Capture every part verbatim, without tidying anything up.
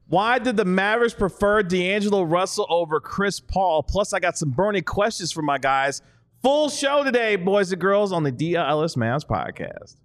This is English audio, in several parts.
Why did the Mavericks prefer D'Angelo Russell over Chris Paul? Plus, I got some burning questions for my guys. Full show today, boys and girls, on the D L L S Mavs podcast.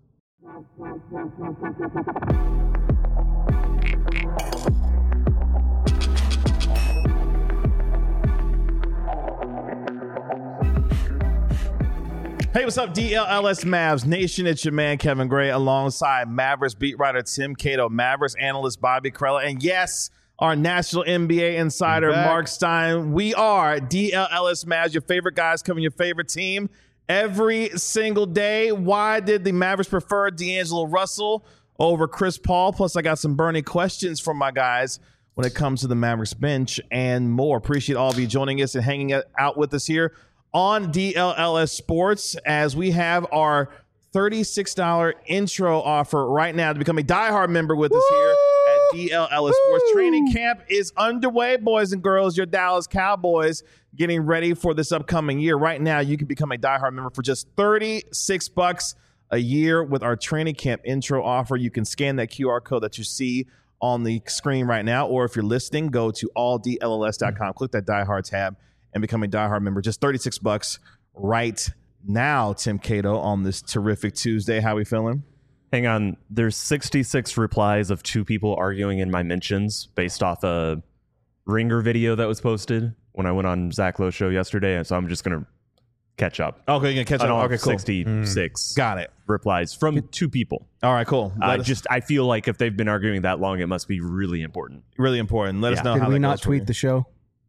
Hey, what's up, D L L S Mavs Nation? It's your man, Kevin Gray, alongside Mavericks beat writer Tim Cato, Mavericks analyst Bobby Krella, and yes, our national N B A insider, Mark Stein. We are D L L S Mavs, your favorite guys covering your favorite team every single day. Why did the Mavericks prefer D'Angelo Russell over Chris Paul? Plus, I got some burning questions from my guys when it comes to the Mavericks bench and more. Appreciate all of you joining us and hanging out with us here on D L L S Sports, as we have our thirty-six dollars intro offer right now to become a diehard member with us here at D L L S Sports. Training camp is underway, boys and girls. Your Dallas Cowboys getting ready for this upcoming year. Right now, you can become a diehard member for just thirty-six bucks a year with our training camp intro offer. You can scan that Q R code that you see on the screen right now, or if you're listening, go to all D L L S dot com, click that diehard tab, and become a diehard member. Just thirty-six bucks right now, Tim Cato, on this terrific Tuesday. How we feeling? Hang on. There's sixty-six replies of two people arguing in my mentions based off a Ringer video that was posted when I went on Zach Lowe's show yesterday. And so I'm just going to catch up. Okay, you're going to catch up. Okay, cool. sixty-six Mm. Got it. replies from two people. All right, cool. I uh, just I feel like if they've been arguing that long, it must be really important. Really important. Let Yeah. us know Did how we that not goes for tweet you. the show?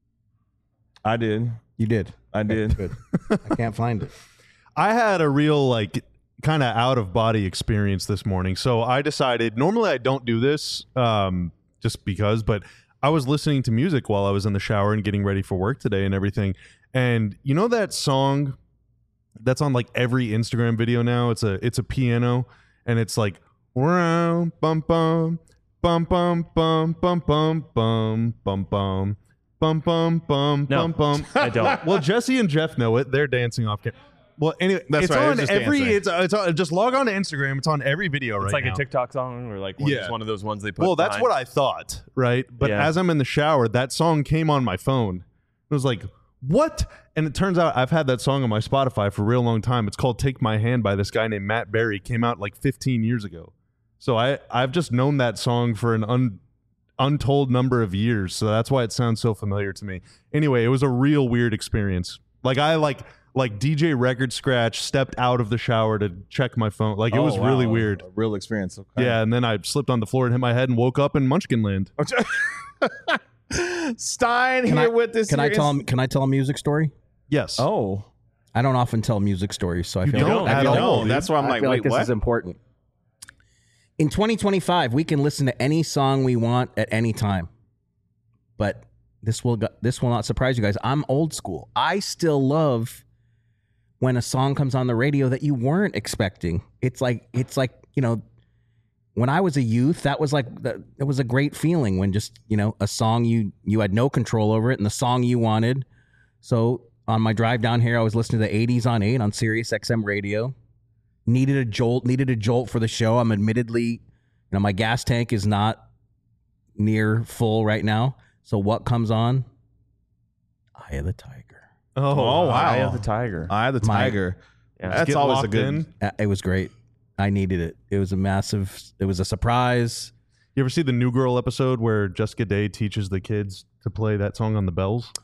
I did. You did. I did. Good. I can't find it. I had a real, like, kind of out-of-body experience this morning. So I decided, normally I don't do this um, just because, but I was listening to music while I was in the shower and getting ready for work today and everything. And you know that song that's on, like, every Instagram video now? It's a it's a piano, and it's like, bum bum bum bum bum bum bum bum bum bum bum. Bum, bum, bum, No, bum, bum. I don't. Well, Jesse and Jeff know it. They're dancing off camera. Well, anyway, That's it's right. It was on just every. dancing. It's it's on, just log on to Instagram. It's on every video It's right like now. a TikTok song or like one, Yeah. just one of those ones they put Well, that's behind. what I thought, right? But Yeah. as I'm in the shower, that song came on my phone. It was like, what? And it turns out I've had that song on my Spotify for a real long time. It's called "Take My Hand" by this guy named Matt Berry. Came out like fifteen years ago. So I I've just known that song for an un. untold number of years, so that's why it sounds so familiar to me. Anyway, it was a real weird experience. Like I like like D J Record Scratch stepped out of the shower to check my phone. Like it Oh, was wow. really weird. A real experience. Okay. Yeah, and then I slipped on the floor and hit my head and woke up in Munchkin Land. Stein Can here I, with this. can I here tell is- him? Can I tell a music story? Yes. Oh, I don't often tell music stories, so I You feel don't like, I at feel like- all, no, that's why I'm I like, feel wait, like this what? is important. In twenty twenty-five, we can listen to any song we want at any time. But this will go- this will not surprise you guys. I'm old school. I still love when a song comes on the radio that you weren't expecting. It's like it's like, you know, when I was a youth, that was like the, it was a great feeling when just, you know, a song you you had no control over it and the song you wanted. So on my drive down here, I was listening to the eighties on eight on Sirius X M radio. Needed a jolt, needed a jolt for the show. I'm admittedly, you know, my gas tank is not near full right now. So what comes on? Eye of the Tiger. Oh, Oh, wow. Eye of the Tiger. I the My- Tiger. Yeah. That's Get always a locked good. in. Uh, It was great. I needed it. It was a massive, it was a surprise. You ever see the New Girl episode where Jessica Day teaches the kids to play that song on the bells?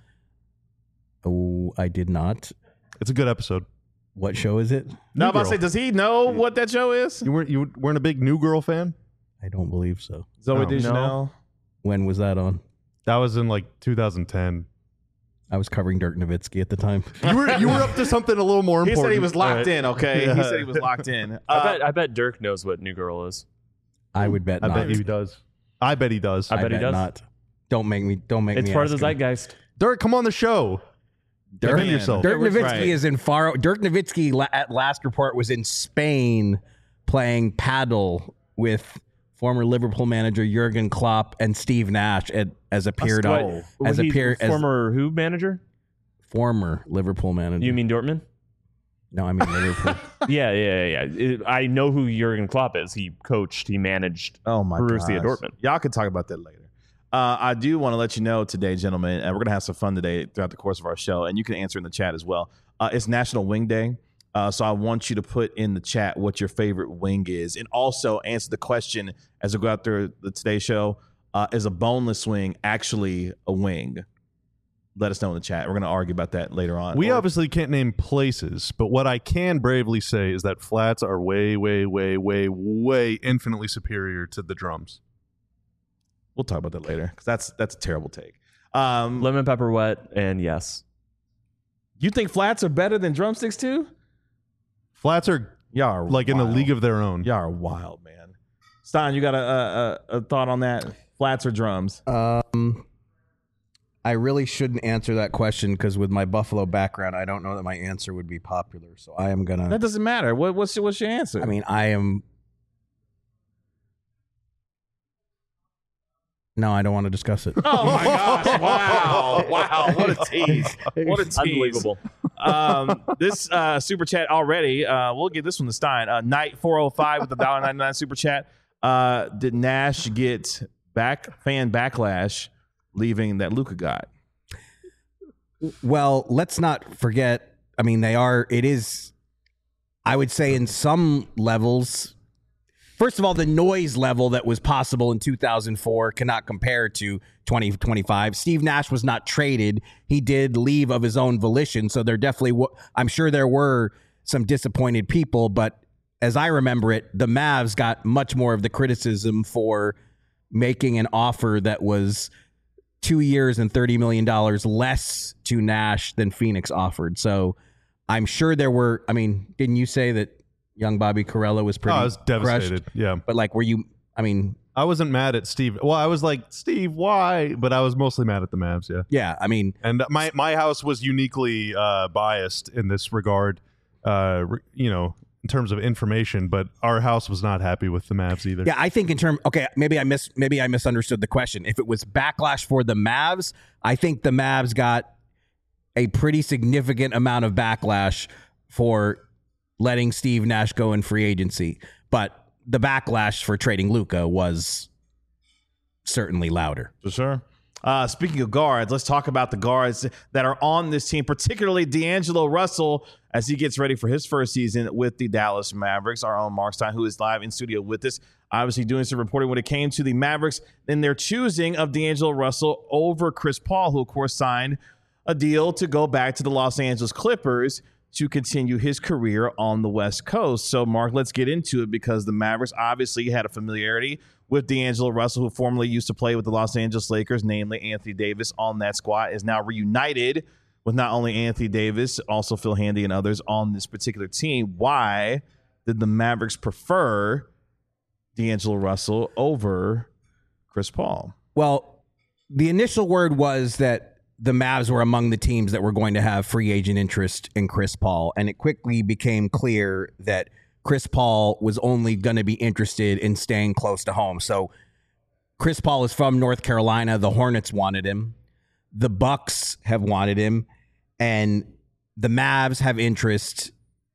Oh, I did not. It's a good episode. What show is it? Now, I'm about to Girl. say, does he know what that show is? You weren't you weren't a big New Girl fan? I don't believe so. Zoe Oh, Deschanel. When was that on? That was in like two thousand ten. I was covering Dirk Nowitzki at the time. You were you were up to something a little more He important. said he was locked Alright. in. Okay, he Yeah. said he was locked in. I Uh, bet I bet Dirk knows what New Girl is. I would bet I not. bet he does. I bet he does. I bet he does. not. Don't make me. Don't make It's me. part of ask the him. zeitgeist. Dirk, come on the show. Dirk, Defend yourself. Dirk Right. Nowitzki is in far. Dirk Nowitzki la- at last report was in Spain playing paddle with former Liverpool manager Jurgen Klopp and Steve Nash at, as appeared on Whoa. as He's appear as former who manager? former Liverpool manager. You mean Dortmund? no? I mean Liverpool. yeah, yeah, yeah. yeah. It- I know who Jurgen Klopp is. He coached. He managed. Oh my Borussia gosh. Dortmund. Y'all can talk about that later. Uh, I do want to let you know today, gentlemen, and we're going to have some fun today throughout the course of our show, and you can answer in the chat as well. Uh, it's National Wing Day, uh, so I want you to put in the chat what your favorite wing is, and also answer the question as we go out there the Today Show. Uh, is a boneless wing actually a wing? Let us know in the chat. We're going to argue about that later on. We or, obviously can't name places, but what I can bravely say is that flats are way, way, way, way, way infinitely superior to the drums. We'll talk about that later because that's that's a terrible take. Um, Lemon pepper wet, and yes. you think flats are better than drumsticks too? Flats are Y'all are like wild. in a league of their own. Y'all are wild, man. Stein, you got a, a, a thought on that? Flats or drums? Um, I really shouldn't answer that question because with my Buffalo background, I don't know that my answer would be popular. So I am gonna. That doesn't matter. What, what's your, what's your answer? I mean, I am. No, I don't want to discuss it. oh my gosh! Wow! Wow! What a tease! What a tease! Unbelievable. Um, this uh, super chat already. Uh, we'll give this one to Stein. Uh, Night four oh five with the one dollar ninety-nine super chat. Uh, did Nash get back fan backlash leaving that Luka got? Well, let's not forget. I mean, they are. It is. I would say in some levels. First of all, the noise level that was possible in two thousand four cannot compare to twenty twenty-five. Steve Nash was not traded. He did leave of his own volition. So there definitely, w- I'm sure there were some disappointed people. But as I remember it, the Mavs got much more of the criticism for making an offer that was two years and thirty million dollars less to Nash than Phoenix offered. So I'm sure there were, I mean, didn't you say that young Bobby Carella was pretty Oh, I was devastated. crushed? Yeah. But like, were you, I mean, I wasn't mad at Steve. Well, I was like, Steve, why? But I was mostly mad at the Mavs, yeah. yeah, I mean, And my, my house was uniquely uh, biased in this regard, uh, re- you know, in terms of information, but our house was not happy with the Mavs either. yeah, I think in terms, okay, maybe I miss, maybe I misunderstood the question. If it was backlash for the Mavs, I think the Mavs got a pretty significant amount of backlash for letting Steve Nash go in free agency. But the backlash for trading Luka was certainly louder. For sure. Uh, speaking of guards, let's talk about the guards that are on this team, particularly D'Angelo Russell, as he gets ready for his first season with the Dallas Mavericks. Our own Mark Stein, who is live in studio with us, obviously doing some reporting when it came to the Mavericks and their choosing of D'Angelo Russell over Chris Paul, who, of course, signed a deal to go back to the Los Angeles Clippers to continue his career on the West Coast. So, Mark, let's get into it because the Mavericks obviously had a familiarity with D'Angelo Russell, who formerly used to play with the Los Angeles Lakers, namely Anthony Davis on that squad, is now reunited with not only Anthony Davis, also Phil Handy and others on this particular team. Why did the Mavericks prefer D'Angelo Russell over Chris Paul? Well, the initial word was that the Mavs were among the teams that were going to have free agent interest in Chris Paul. And it quickly became clear that Chris Paul was only going to be interested in staying close to home. So Chris Paul is from North Carolina. The Hornets wanted him. The Bucks have wanted him. And the Mavs have interest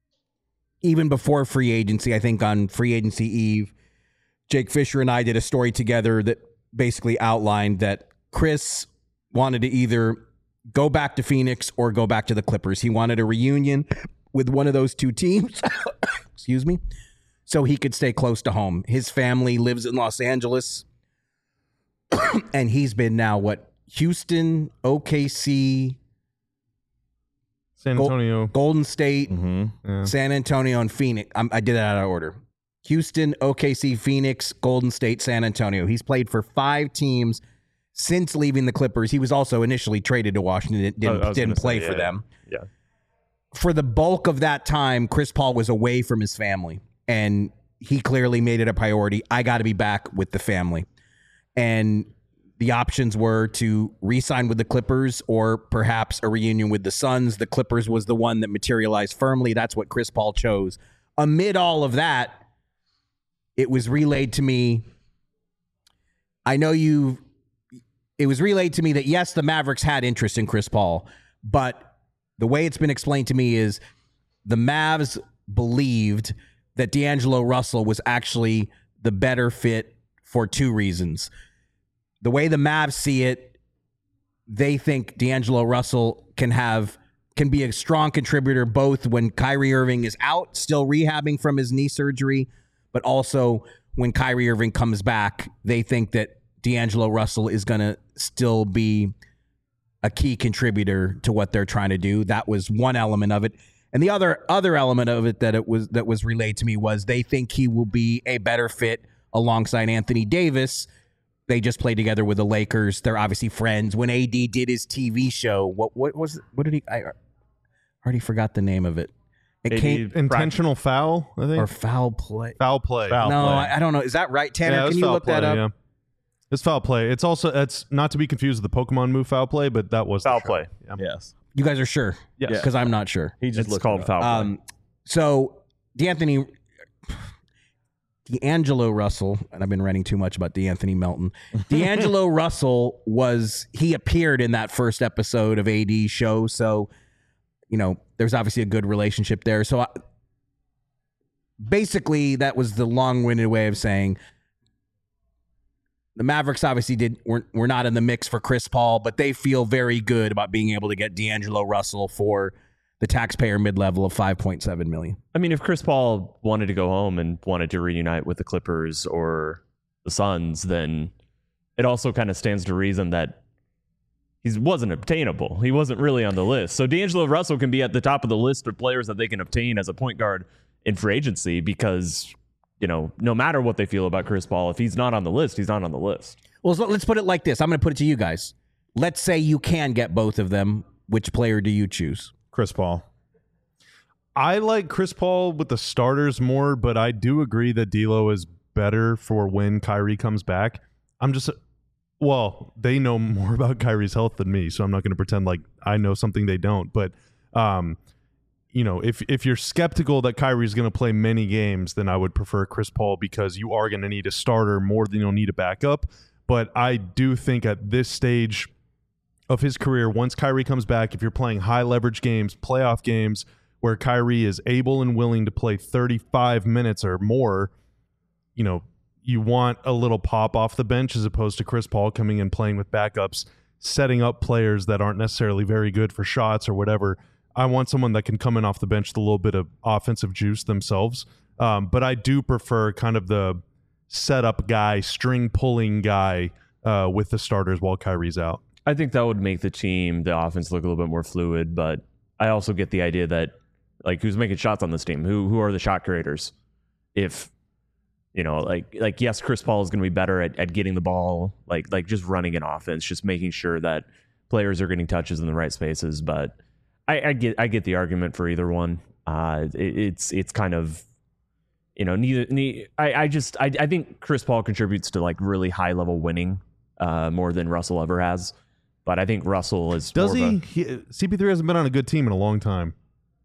even before free agency. I think on free agency eve, Jake Fisher and I did a story together that basically outlined that Chris wanted to either go back to Phoenix or go back to the Clippers. He wanted a reunion with one of those two teams, excuse me, so he could stay close to home. His family lives in Los Angeles, and he's been now, what, Houston, O K C, San Antonio. Golden State, Mm-hmm. Yeah. San Antonio, and Phoenix. I'm, I did that out of order. Houston, O K C, Phoenix, Golden State, San Antonio. He's played for five teams since leaving the Clippers. He was also initially traded to Washington. Didn't, I was didn't gonna play say, for yeah, them. Yeah. For the bulk of that time, Chris Paul was away from his family, and he clearly made it a priority. I got to be back with the family. And the options were to re-sign with the Clippers or perhaps a reunion with the Suns. The Clippers was the one that materialized firmly. That's what Chris Paul chose. Amid all of that, it was relayed to me. I know you, it was relayed to me that yes, the Mavericks had interest in Chris Paul, but the way it's been explained to me is the Mavs believed that D'Angelo Russell was actually the better fit for two reasons. the way the Mavs see it, they think D'Angelo Russell can have can be a strong contributor both when Kyrie Irving is out, still rehabbing from his knee surgery, but also when Kyrie Irving comes back. They think that D'Angelo Russell is going to still be a key contributor to what they're trying to do. That was one element of it. And the other other element of it that it was that was relayed to me was they think he will be a better fit alongside Anthony Davis. They just played together with the Lakers. They're obviously friends. When A D did his T V show, what what was it? What did he? I already forgot the name of it. It A D came Intentional foul, I think. or foul play. Foul play. Foul no, play. I, I don't know. Is that right, Tanner? Yeah, it was Can you foul look that play, up? Yeah. It's foul play. It's also it's not to be confused with the Pokemon move foul play, but that was the Foul show. play. Yeah. Yes. You guys are sure? Yes. Because I'm not sure. He just It's looked called it up. foul play. Um, so D'Anthony, D'Angelo Russell, and I've been writing too much about D'Anthony Melton. D'Angelo Russell was he appeared in that first episode of A D's show, so you know there's obviously a good relationship there. So I, basically, that was the long-winded way of saying the Mavericks obviously did we're, we're not in the mix for Chris Paul, but they feel very good about being able to get D'Angelo Russell for the taxpayer mid-level of five point seven million dollars. I mean, if Chris Paul wanted to go home and wanted to reunite with the Clippers or the Suns, then it also kind of stands to reason that he wasn't obtainable. He wasn't really on the list. So D'Angelo Russell can be at the top of the list of players that they can obtain as a point guard in free agency because, you know, no matter what they feel about Chris Paul, if he's not on the list, he's not on the list. Well, so let's put it like this. I'm going to put it to you guys. Let's say you can get both of them. Which player do you choose? Chris Paul. I like Chris Paul with the starters more, but I do agree that D'Lo is better for when Kyrie comes back. I'm just, well, they know more about Kyrie's health than me, so I'm not going to pretend like I know something they don't. But, um, you know, if if you're skeptical that Kyrie's going to play many games, then I would prefer Chris Paul because you are going to need a starter more than you'll need a backup. But I do think at this stage of his career, once Kyrie comes back, if you're playing high leverage games, playoff games, where Kyrie is able and willing to play thirty-five minutes or more, you know, you want a little pop off the bench as opposed to Chris Paul coming in playing with backups, setting up players that aren't necessarily very good for shots or whatever. I want someone that can come in off the bench with a little bit of offensive juice themselves. Um, but I do prefer kind of the setup guy, string pulling guy uh, with the starters while Kyrie's out. I think that would make the team, the offense, look a little bit more fluid. But I also get the idea that, like, who's making shots on this team? Who who are the shot creators? If, you know, like, like yes, Chris Paul is going to be better at, at getting the ball, like, like just running an offense, just making sure that players are getting touches in the right spaces. But I, I get I get the argument for either one. Uh, it, it's it's kind of, you know, neither. neither I, I just I, I think Chris Paul contributes to like really high level winning uh, more than Russell ever has. But I think Russell is. Does more he? of a, he? C P three hasn't been on a good team in a long time.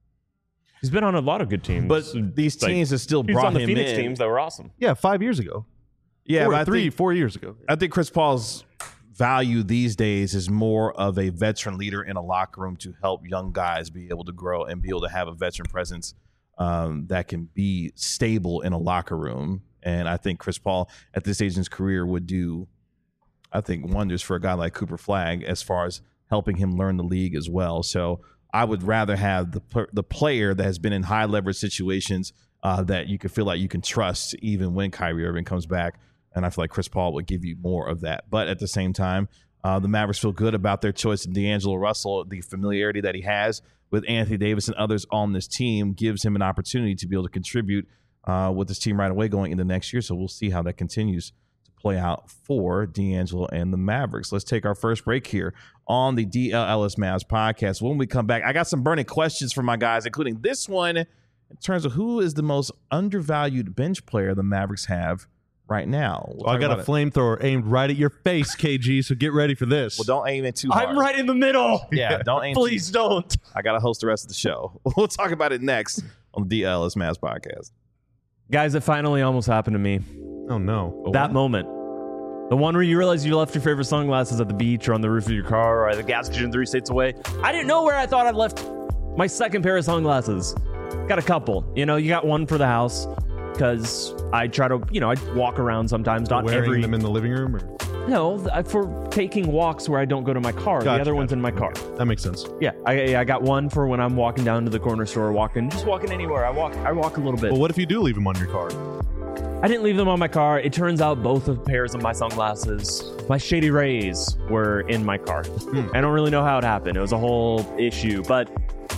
He's been on a lot of good teams, But these Like, teams have still he was brought on the him Phoenix in. teams that were awesome. Yeah, five years ago. Yeah, Four- but I three, think, four years ago. I think Chris Paul's value these days is more of a veteran leader in a locker room to help young guys be able to grow and be able to have a veteran presence um, that can be stable in a locker room. And I think Chris Paul at this stage in his career would do, I think, wonders for a guy like Cooper Flagg as far as helping him learn the league as well. So I would rather have the the player that has been in high leverage situations uh, that you can feel like you can trust even when Kyrie Irving comes back. And I feel like Chris Paul would give you more of that. But at the same time, uh, the Mavericks feel good about their choice of D'Angelo Russell. The familiarity that he has with Anthony Davis and others on this team gives him an opportunity to be able to contribute uh, with this team right away going into next year. So we'll see how that continues to play out for D'Angelo and the Mavericks. Let's take our first break here on the D L L S Mavs podcast. When we come back, I got some burning questions for my guys, including this one in terms of who is the most undervalued bench player the Mavericks have right now. We'll Well, I talk got a about it. flamethrower aimed right at your face, K G, so get ready for this. Well, don't aim it too hard. I'm right in the middle. Yeah, don't aim. Please too- don't. I got to host the rest of the show. We'll talk about it next on the D L S Mavs podcast. Guys, it finally almost happened to me. Oh, no. That moment. The one where you realize you left your favorite sunglasses at the beach or on the roof of your car or at the gas station three states away. I didn't know where I thought I'd left my second pair of sunglasses. Got a couple. You know, you got one for the house because I try to, you know, I walk around sometimes. Not Wearing every. them in the living room? Or? No, th- for taking walks where I don't go to my car. Gotcha, the other one's gotcha. in my car. That makes sense. Yeah, I, I got one for when I'm walking down to the corner store, walking, just walking anywhere. I walk, I walk a little bit. Well, what if you do leave them on your car? I didn't leave them on my car. It turns out both of pairs of my sunglasses, my Shady Rays, were in my car. Hmm. I don't really know how it happened. It was a whole issue, but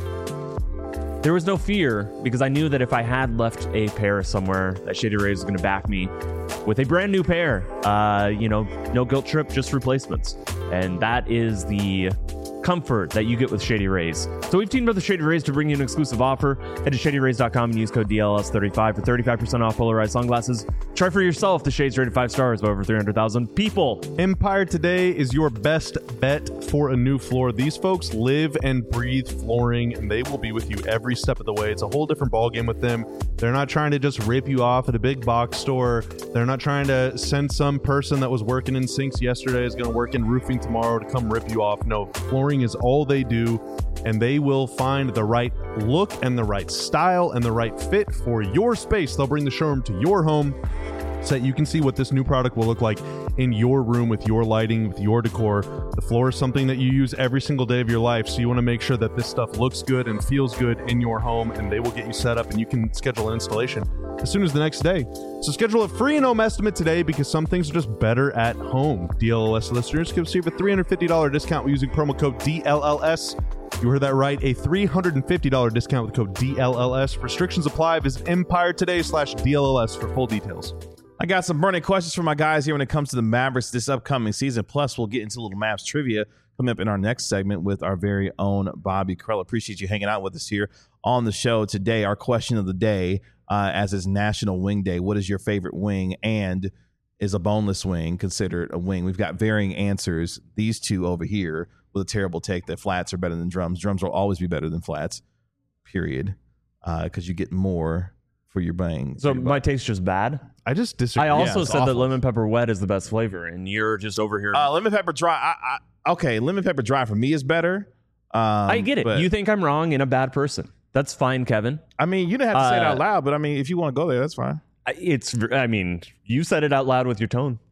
there was no fear because I knew that if I had left a pair somewhere, that Shady Rays was going to back me with a brand new pair. Uh, you know, no guilt trip, just replacements. And that is the comfort that you get with Shady Rays. So we've teamed up with Shady Rays to bring you an exclusive offer. Head to shady rays dot com and use code D L S thirty-five for thirty-five percent off polarized sunglasses. Try for yourself the shades rated five stars by over three hundred thousand people. Empire Today is your best bet for a new floor. These folks live and breathe flooring, and they will be with you every step of the way. It's a whole different ballgame with them. They're not trying to just rip you off at a big box store. They're not trying to send some person that was working in sinks yesterday is going to work in roofing tomorrow to come rip you off. No, flooring is all they do, and they will find the right look and the right style and the right fit for your space. They'll bring the showroom to your home so that you can see what this new product will look like in your room with your lighting, with your decor. The floor is something that you use every single day of your life, so you want to make sure that this stuff looks good and feels good in your home, and they will get you set up, and you can schedule an installation as soon as the next day. So schedule a free and home estimate today because some things are just better at home. D L L S listeners can receive a three hundred fifty dollars discount using promo code D L L S. You heard that right, a three hundred fifty dollars discount with code D L L S. Restrictions apply. Visit Empire Today slash D L L S for full details. I got some burning questions for my guys here when it comes to the Mavericks this upcoming season. Plus, we'll get into a little Mavs trivia coming up in our next segment with our very own Bobby Krell. Appreciate you hanging out with us here on the show today. Our question of the day, uh, as is National Wing Day, what is your favorite wing, and is a boneless wing considered a wing? We've got varying answers. These two over here with a terrible take that flats are better than drums. Drums will always be better than flats, period, because uh, you get more for your bang. So my taste's just bad. I just disagree. I also Yeah, it's said awful. that lemon pepper wet is the best flavor, and you're just over here. Uh, lemon pepper dry. I, I, okay, lemon pepper dry for me is better. Um, I get it. but- You think I'm wrong and a bad person. That's fine, Kevin. I mean, you didn't have to say it Uh, out loud, but I mean, if you want to go there, that's fine. I- It's. I mean, you said it out loud with your tone.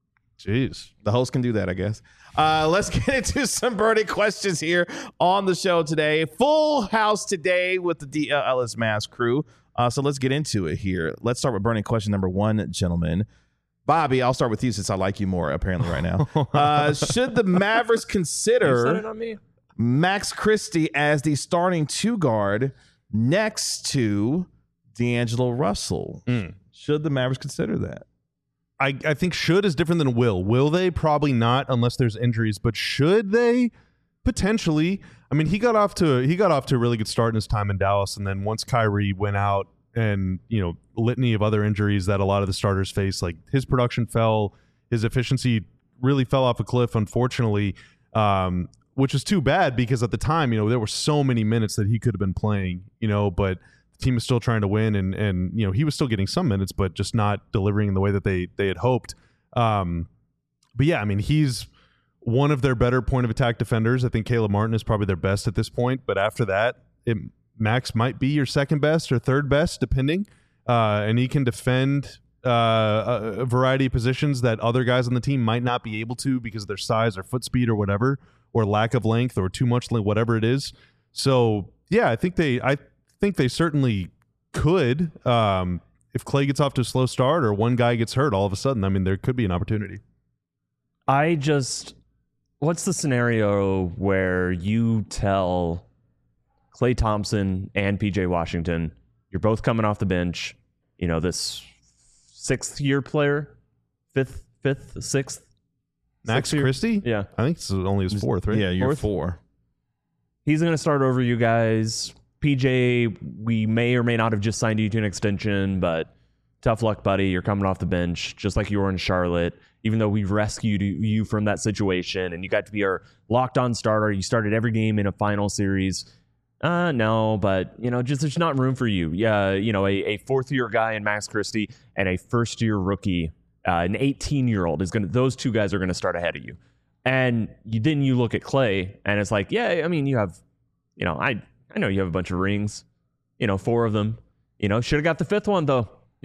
Jeez. The host can do that, I guess. Uh, let's get into some burning questions here on the show today. Full house today with the D L L S Mavs crew. Uh, so let's get into it here. Let's start with burning question number one, gentlemen. Bobby, I'll start with you since I like you more apparently right now. Uh, should the Mavericks consider on me. Max Christie as the starting two guard next to D'Angelo Russell? Mm. Should the Mavericks consider that? I, I think should is different than will. Will they? Probably not unless there's injuries. But should they? Potentially. I mean, he got off to he got off to a really good start in his time in Dallas, and then once Kyrie went out and, you know, litany of other injuries that a lot of the starters face, like his production fell, his efficiency really fell off a cliff, unfortunately, um, which is too bad because at the time, you know, there were so many minutes that he could have been playing, you know, but the team was still trying to win, and and you know, he was still getting some minutes, but just not delivering in the way that they they had hoped. Um, but yeah, I mean, he's one of their better point of attack defenders. I think Caleb Martin is probably their best at this point, but after that, it, Max might be your second best or third best, depending. Uh, and he can defend uh, a, a variety of positions that other guys on the team might not be able to because of their size or foot speed or whatever, or lack of length or too much length, whatever it is. So yeah, I think they, I think they certainly could. Um, if Clay gets off to a slow start or one guy gets hurt, all of a sudden, I mean, there could be an opportunity. I just. What's the scenario where you tell Klay Thompson and P J Washington, you're both coming off the bench, you know, this sixth year player, fifth, fifth, sixth? Max sixth year? Christie? Yeah. I think it's only his fourth, right? Yeah, you're Fourth? four. He's going to start over you guys. P J, we may or may not have just signed you to an extension, but tough luck, buddy. You're coming off the bench, just like you were in Charlotte. Even though we rescued you from that situation and you got to be our locked-on starter, you started every game in a final series. Uh, no, but, you know, just there's not room for you. Yeah, you know, a, a fourth-year guy in Max Christie and a first-year rookie, uh, an eighteen-year-old, is gonna. Those two guys are going to start ahead of you. And you then you look at Clay, and it's like, yeah, I mean, you have, you know, I, I know you have a bunch of rings, you know, four of them. You know, should have got the fifth one, though.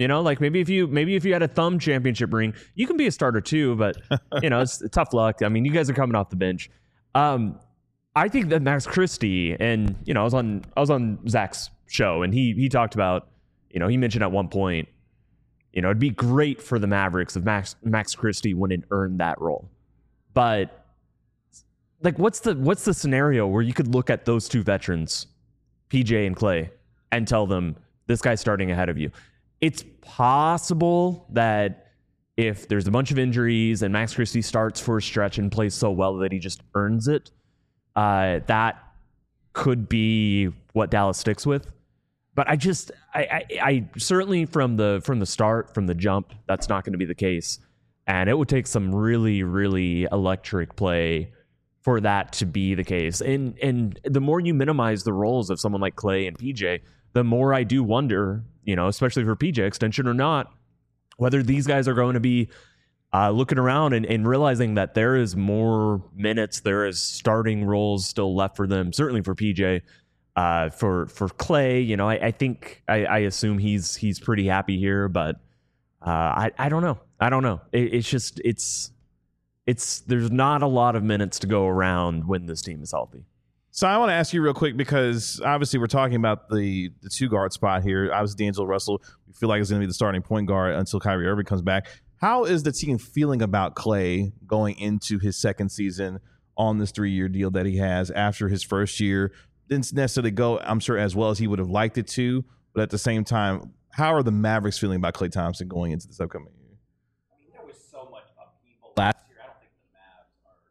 You know, like maybe if you maybe if you had a thumb championship ring, you can be a starter too. But you know, it's tough luck. I mean, you guys are coming off the bench. Um, I think that Max Christie, and you know, I was on I was on Zach's show, and he he talked about, you know, he mentioned at one point, you know, it'd be great for the Mavericks if Max Max Christie wouldn't earn that role. But like, what's the what's the scenario where you could look at those two veterans, P J and Klay, and tell them this guy's starting ahead of you? It's possible that if there's a bunch of injuries and Max Christie starts for a stretch and plays so well that he just earns it, uh, that could be what Dallas sticks with. But I just, I, I, I certainly from the from the start, from the jump, that's not going to be the case. And it would take some really, really electric play for that to be the case. And and the more you minimize the roles of someone like Klay and P J, the more I do wonder, you know, especially for P J, extension or not, whether these guys are going to be uh, looking around and, and realizing that there is more minutes, there is starting roles still left for them. Certainly for P J, uh, for for Klay, you know, I, I think I, I assume he's he's pretty happy here, but uh, I I don't know, I don't know. It, it's just it's it's there's not a lot of minutes to go around when this team is healthy. So I want to ask you real quick, because obviously we're talking about the the two guard spot here. Obviously, D'Angelo Russell, we feel like is going to be the starting point guard until Kyrie Irving comes back. How is the team feeling about Klay going into his second season on this three-year deal that he has after his first year? Didn't necessarily go, I'm sure, as well as he would have liked it to, but at the same time, how are the Mavericks feeling about Klay Thompson going into this upcoming year? I mean, there was so much upheaval last year. I don't think the Mavs are,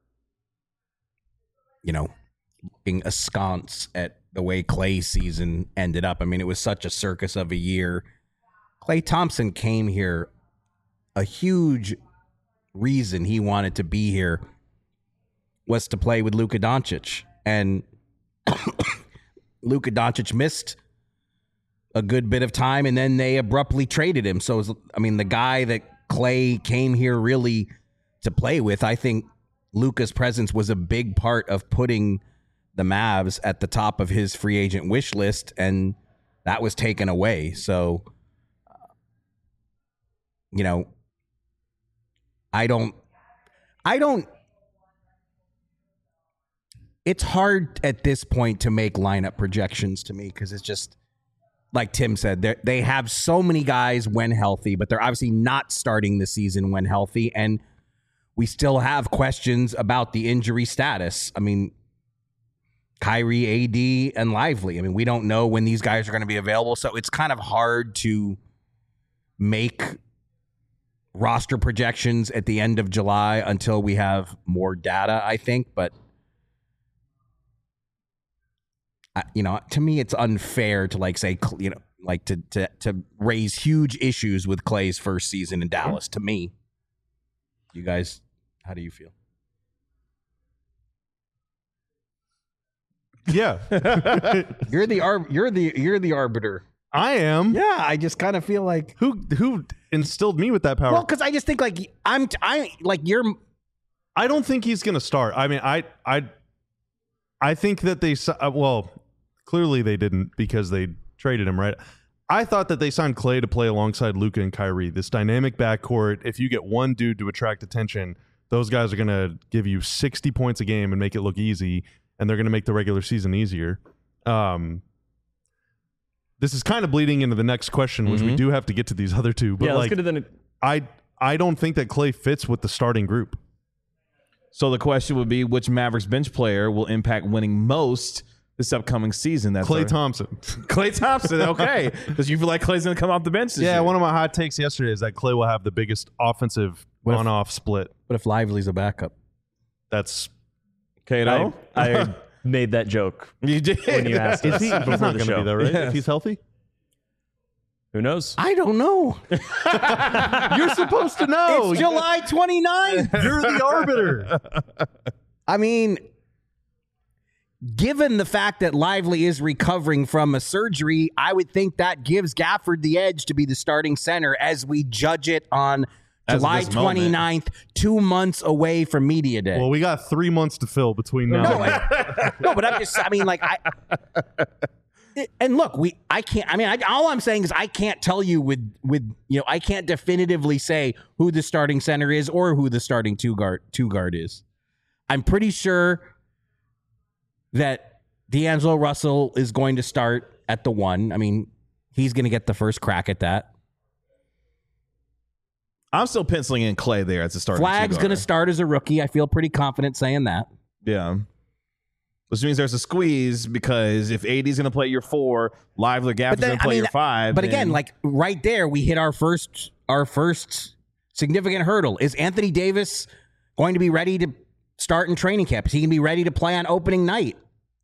you know, looking askance at the way Klay's season ended up. I mean, it was such a circus of a year. Klay Thompson came here. A huge reason he wanted to be here was to play with Luka Doncic. And Luka Doncic missed a good bit of time, and then they abruptly traded him. So, it was, I mean, the guy that Klay came here really to play with, I think Luka's presence was a big part of putting the Mavs at the top of his free agent wish list, and that was taken away. So, you know, I don't, I don't, it's hard at this point to make lineup projections to me, because it's just, like Tim said, they have so many guys when healthy, but they're obviously not starting the season when healthy, and we still have questions about the injury status. I mean, Kyrie, A D, and Lively. I mean, we don't know when these guys are going to be available, so it's kind of hard to make roster projections at the end of July until we have more data, I think. But, I, you know, to me, it's unfair to like say, you know, like to to to raise huge issues with Klay's first season in Dallas. To me, you guys, how do you feel? Yeah, you're the ar- you're the you're the arbiter. I am. Yeah, I just kind of feel like who who instilled me with that power. Well, because I just think like I'm I like you're. I don't think he's going to start. I mean, I I I think that they well clearly they didn't, because they traded him, right? I thought that they signed Klay to play alongside Luka and Kyrie, this dynamic backcourt. If you get one dude to attract attention, those guys are going to give you sixty points a game and make it look easy, and they're going to make the regular season easier. Um, this is kind of bleeding into the next question, which mm-hmm. we do have to get to these other two. But yeah, like, let's get to the... I I don't think that Klay fits with the starting group. So the question would be, which Mavericks bench player will impact winning most this upcoming season? That's Klay our... Thompson. Klay Thompson, okay. Because you feel like Klay's going to come off the bench this Yeah, year. one of my hot takes yesterday is that Klay will have the biggest offensive What if- on-off split. What if Lively's a backup? That's Kato? I, I made that joke You did. when you asked is us he? He's before not the going to show. be there, right? Yes. If he's healthy, Who knows? I don't know. you're supposed to know. It's July twenty-ninth. You're the arbiter. I mean, given the fact that Lively is recovering from a surgery, I would think that gives Gafford the edge to be the starting center as we judge it on As of July this moment. twenty-ninth, two months away from Media Day. Well, we got three months to fill between now no, and I, no, but I'm just, I mean, like, I, and look, we I can't. I mean, I, all I'm saying is I can't tell you with with you know I can't definitively say who the starting center is or who the starting two guard two guard is. I'm pretty sure that D'Angelo Russell is going to start at the one. I mean, he's going to get the first crack at that. I'm still penciling in Clay there as a starting. Flag's going to start as a rookie. I feel pretty confident saying that. Yeah. Which means there's a squeeze because if A D's going to play your four, Lively Gap is going to play I mean, your five. But then... again, like right there, we hit our first our first significant hurdle. Is Anthony Davis going to be ready to start in training camp? Is he going to be ready to play on opening night?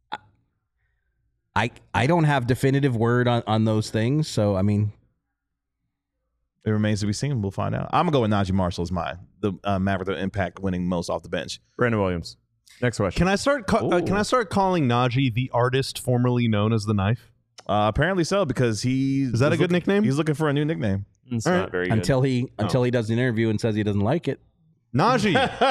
I I don't have definitive word on, on those things. So, I mean... It remains to be seen. We'll find out. I'm going to go with Najee Marshall as my the uh, Maverick of Impact winning most off the bench. Brandon Williams. Next question. Can I start? Ca- uh, can I start calling Najee the artist formerly known as the Knife? Uh, apparently so, because he is that a good looking, nickname? He's looking for a new nickname. It's All not right. very good. Until he until oh. he does an interview and says he doesn't like it. Najee,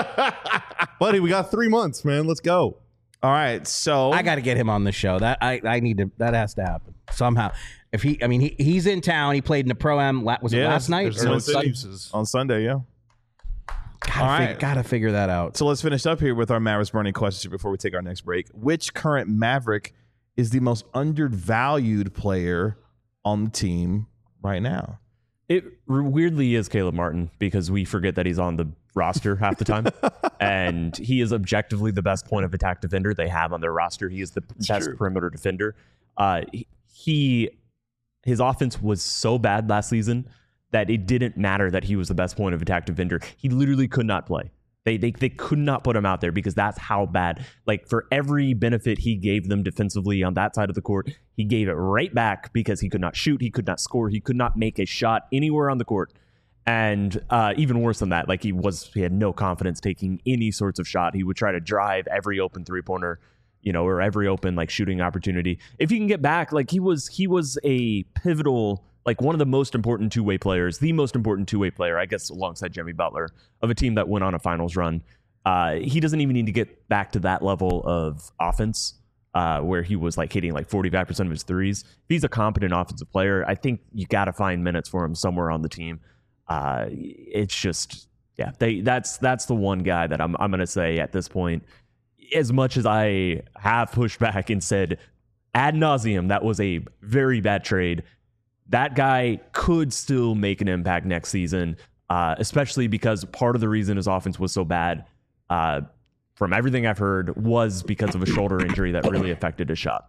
buddy, we got three months, man. Let's go. All right, so I got to get him on the show. That I I need to. That has to happen somehow. If he, I mean, he he's in town. He played in the Pro Am. Was it yeah, last night or on Sunday? On Sunday, yeah. Gotta, All figure, right. gotta figure that out. So let's finish up here with our Mavericks burning questions before we take our next break. Which current Maverick is the most undervalued player on the team right now? It weirdly is Caleb Martin because we forget that he's on the roster half the time. And he is objectively the best point of attack defender they have on their roster. He is the It's best true. perimeter defender. Uh, he, his offense was so bad last season that it didn't matter that he was the best point of attack defender. He literally could not play. They, they they could not put him out there because that's how bad. Like for every benefit he gave them defensively on that side of the court, he gave it right back because he could not shoot, he could not score, he could not make a shot anywhere on the court. And uh, even worse than that, like he was, he had no confidence taking any sorts of shot. He would try to drive every open three pointer, you know, or every open like shooting opportunity. If he can get back, like he was, he was a pivotal. Like one of the most important two-way players, the most important two-way player, I guess, alongside Jimmy Butler, of a team that went on a finals run. Uh, he doesn't even need to get back to that level of offense uh, where he was like hitting like forty-five percent of his threes. If he's a competent offensive player, I think you got to find minutes for him somewhere on the team. Uh, it's just, yeah, they that's that's the one guy that I'm I'm going to say at this point, as much as I have pushed back and said ad nauseum, that was a very bad trade. That guy could still make an impact next season, uh, especially because part of the reason his offense was so bad, uh, from everything I've heard, was because of a shoulder injury that really affected his shot.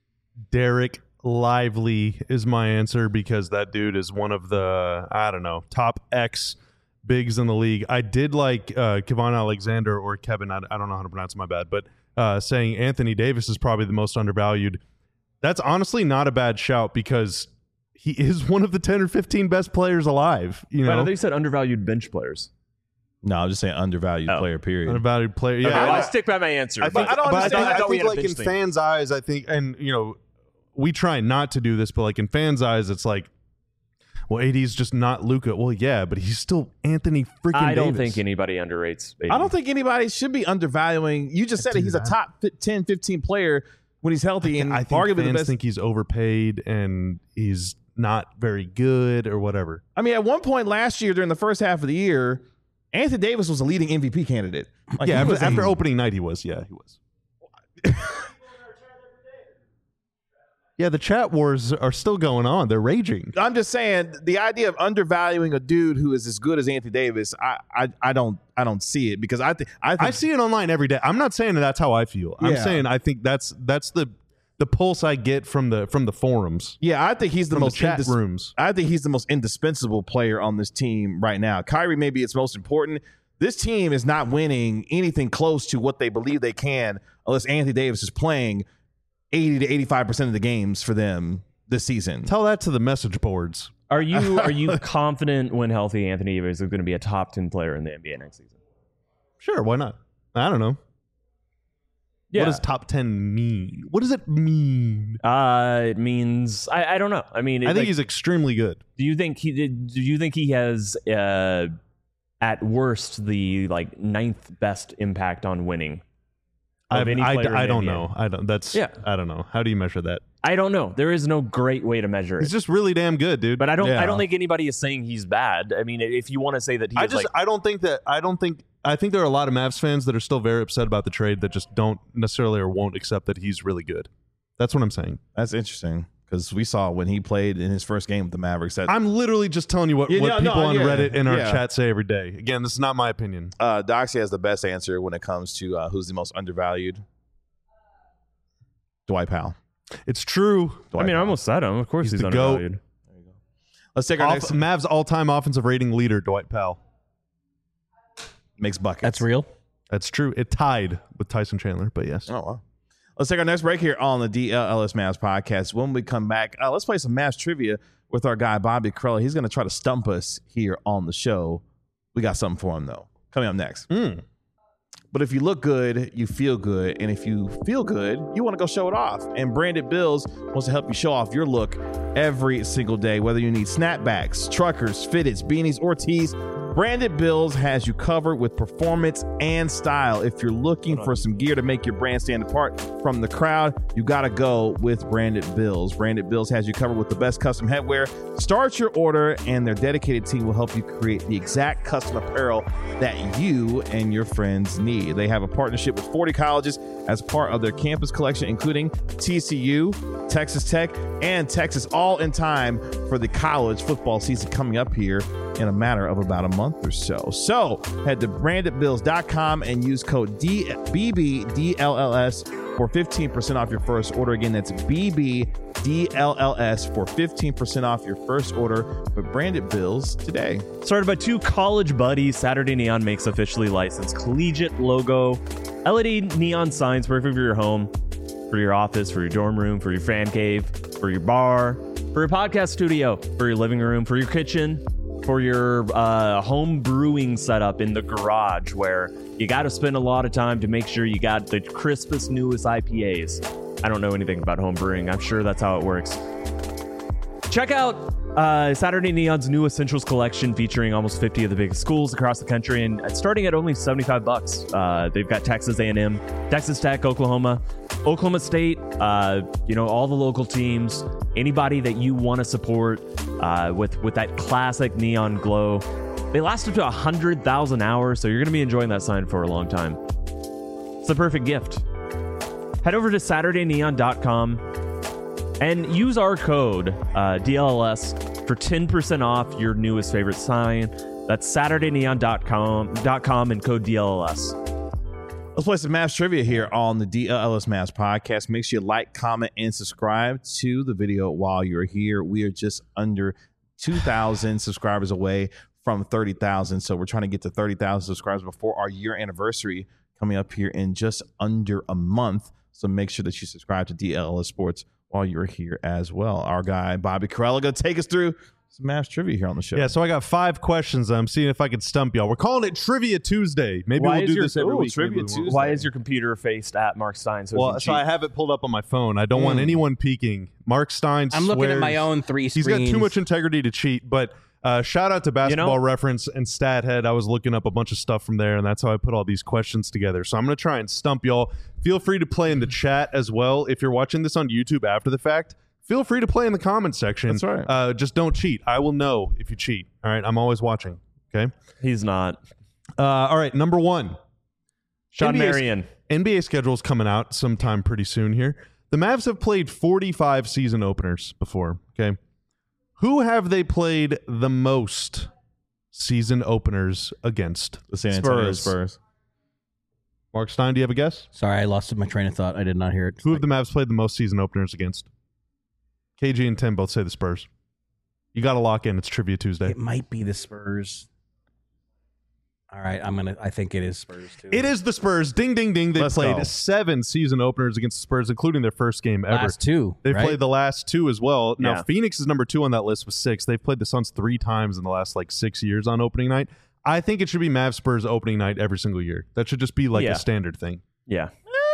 Derek Lively is my answer because that dude is one of the, I don't know, top X bigs in the league. I did like uh, Kevon Alexander or Kevin, I, I don't know how to pronounce it, my bad, but uh, saying Anthony Davis is probably the most undervalued. That's honestly not a bad shout because he is one of the ten or fifteen best players alive. You know, But I think you said undervalued bench players. No, I'm just saying undervalued Oh. player, period. undervalued player. Yeah, Okay, I- I'll stick by my answer. I think, but I don't but I understand. think, I, I thought we think had a like bench in thing. fans' eyes, I think, and you know, we try not to do this, but like in fans' eyes, it's like, well, A D's just not Luka. Well, yeah, but he's still Anthony freaking I don't Davis. think anybody underrates A D. I don't think anybody should be undervaluing. You just said do it. He's that. a top ten, fifteen player when he's healthy, and I think arguably fans the best. think he's overpaid and he's not very good or whatever. I mean, at one point last year, during the first half of the year, Anthony Davis was a leading M V P candidate. Like, yeah, he after, was a- after opening night, he was. Yeah, he was. Yeah, the chat wars are still going on. They're raging. I'm just saying the idea of undervaluing a dude who is as good as Anthony Davis, I I, I don't I don't see it because I think I think I see it online every day. I'm not saying that that's how I feel. I'm Yeah. saying I think that's that's the the pulse I get from the from the forums, yeah, I think he's the from the most chat indis- rooms. I think he's the most indispensable player on this team right now. Kyrie may be its most important. This team is not winning anything close to what they believe they can unless Anthony Davis is playing eighty to eighty-five percent of the games for them this season. Tell that to the message boards. Are you are you confident when healthy Anthony Davis is going to be a top ten player in the N B A next season? Sure, why not? I don't know. Yeah. What does top ten mean? What does it mean? Uh, it means I, I don't know. I mean, it, I think like, he's extremely good. Do you think he did? Do you think he has uh, at worst the like ninth best impact on winning? I, Of any I, player in I the don't N B A. know. I don't. That's Yeah. I don't know. How do you measure that? I don't know. There is no great way to measure He's it. just really damn good, dude. But I don't. Yeah. I don't think anybody is saying he's bad. I mean, if you want to say that he's I just like, I don't think that I don't think I think there are a lot of Mavs fans that are still very upset about the trade that just don't necessarily or won't accept that he's really good. That's what I'm saying. That's interesting because we saw when he played in his first game with the Mavericks. That I'm literally just telling you what, Yeah, what no, no, people on yeah, Reddit and our yeah. chat say every day. Again, this is not my opinion. uh, Doxy has the best answer when it comes to uh, who's the most undervalued. Dwight Powell. It's true. Dwight I mean, I Powell. almost said him. Of course, He's he's, the GOAT. undervalued. Let's take our Off, next. Mavs all-time offensive rating leader, Dwight Powell. Makes buckets. That's real. That's true. It tied with Tyson Chandler, but yes. Oh, wow. Let's take our next break here on the D L L S Mavs podcast. When we come back, uh, let's play some Mavs trivia with our guy, Bobby Crella. He's going to try to stump us here on the show. We got something for him, though. Coming up next. Mm. But if you look good, you feel good. And if you feel good, you want to go show it off. And Branded Bills wants to help you show off your look every single day. Whether you need snapbacks, truckers, fitteds, beanies, or tees, Branded Bills has you covered with performance and style. If you're looking for some gear to make your brand stand apart from the crowd, you got to go with Branded Bills. Branded Bills has you covered with the best custom headwear. Start your order, and their dedicated team will help you create the exact custom apparel that you and your friends need. They have a partnership with forty colleges as part of their campus collection, including T C U, Texas Tech, and Texas, all in time for the college football season coming up here in a matter of about a month or so. So head to branded bills dot com and use code D- B B D L L S for fifteen percent off your first order. Again, that's B B D L L S for fifteen percent off your first order with Branded Bills today. Started by two college buddies, Saturday Neon makes officially licensed collegiate logo, L E D neon signs perfect for your home, for your office, for your dorm room, for your fan cave, for your bar, for your podcast studio, for your living room, for your kitchen, for your uh, home brewing setup in the garage where you got to spend a lot of time to make sure you got the crispest, newest I P As. I don't know anything about home brewing. I'm sure that's how it works. Check out uh, Saturday Neon's new Essentials collection featuring almost fifty of the biggest schools across the country and starting at only seventy-five bucks. Uh, they've got Texas A and M, Texas Tech, Oklahoma, Oklahoma State, uh, you know, all the local teams, anybody that you want to support uh, with, with that classic neon glow. They last up to one hundred thousand hours, so you're going to be enjoying that sign for a long time. It's the perfect gift. Head over to Saturday Neon dot com and use our code uh, D L L S for ten percent off your newest favorite sign. That's Saturday Neon dot com and code D L L S. Let's play some Mavs trivia here on the D L L S Mavs podcast. Make sure you like, comment, and subscribe to the video while you're here. We are just under two thousand subscribers away from thirty thousand. So we're trying to get to thirty thousand subscribers before our year anniversary coming up here in just under a month. So make sure that you subscribe to D L L S Sports while you're here as well. Our guy, Bobby Crella, going to take us through some Mavs trivia here on the show. Yeah, so I got five questions. I'm seeing if I can stump y'all. We're calling it Trivia Tuesday. Maybe Why we'll is do your- this every Ooh, week. Trivia Maybe we won't. Tuesday. Why is your computer faced at Mark Stein? So, it Well, can so I cheat? have it pulled up on my phone. I don't want Mm. anyone peeking. Mark Stein I'm looking at my swears own three He's screens. got too much integrity to cheat, but uh, shout out to Basketball You know- Reference and StatHead. I was looking up a bunch of stuff from there, and that's how I put all these questions together. So I'm going to try and stump y'all. Feel free to play in the chat as well. If you're watching this on YouTube after the fact, feel free to play in the comment section. That's right. Uh, just don't cheat. I will know if you cheat. All right. I'm always watching. Okay. He's not. Uh, all right. Number one. Sean N B A Marion. N B A schedule's coming out sometime pretty soon here. The Mavs have played forty-five season openers before. Okay. Who have they played the most season openers against? The San Antonio Spurs. Spurs. Mark Stein, do you have a guess? Sorry, I lost my train of thought. I did not hear it. Who have the Mavs played the most season openers against? K G and Tim both say the Spurs. You got to lock in. It's Trivia Tuesday. It might be the Spurs. All right, I'm gonna. I think it is Spurs too. It is the Spurs. Ding, ding, ding. They Let's played go. seven season openers against the Spurs, including their first game ever. last two. They've right? played the last two as well. Now, Yeah. Phoenix is number two on that list with six. They've played the Suns three times in the last like six years on opening night. I think it should be Mavs Spurs opening night every single year. That should just be like Yeah. a standard thing. Yeah.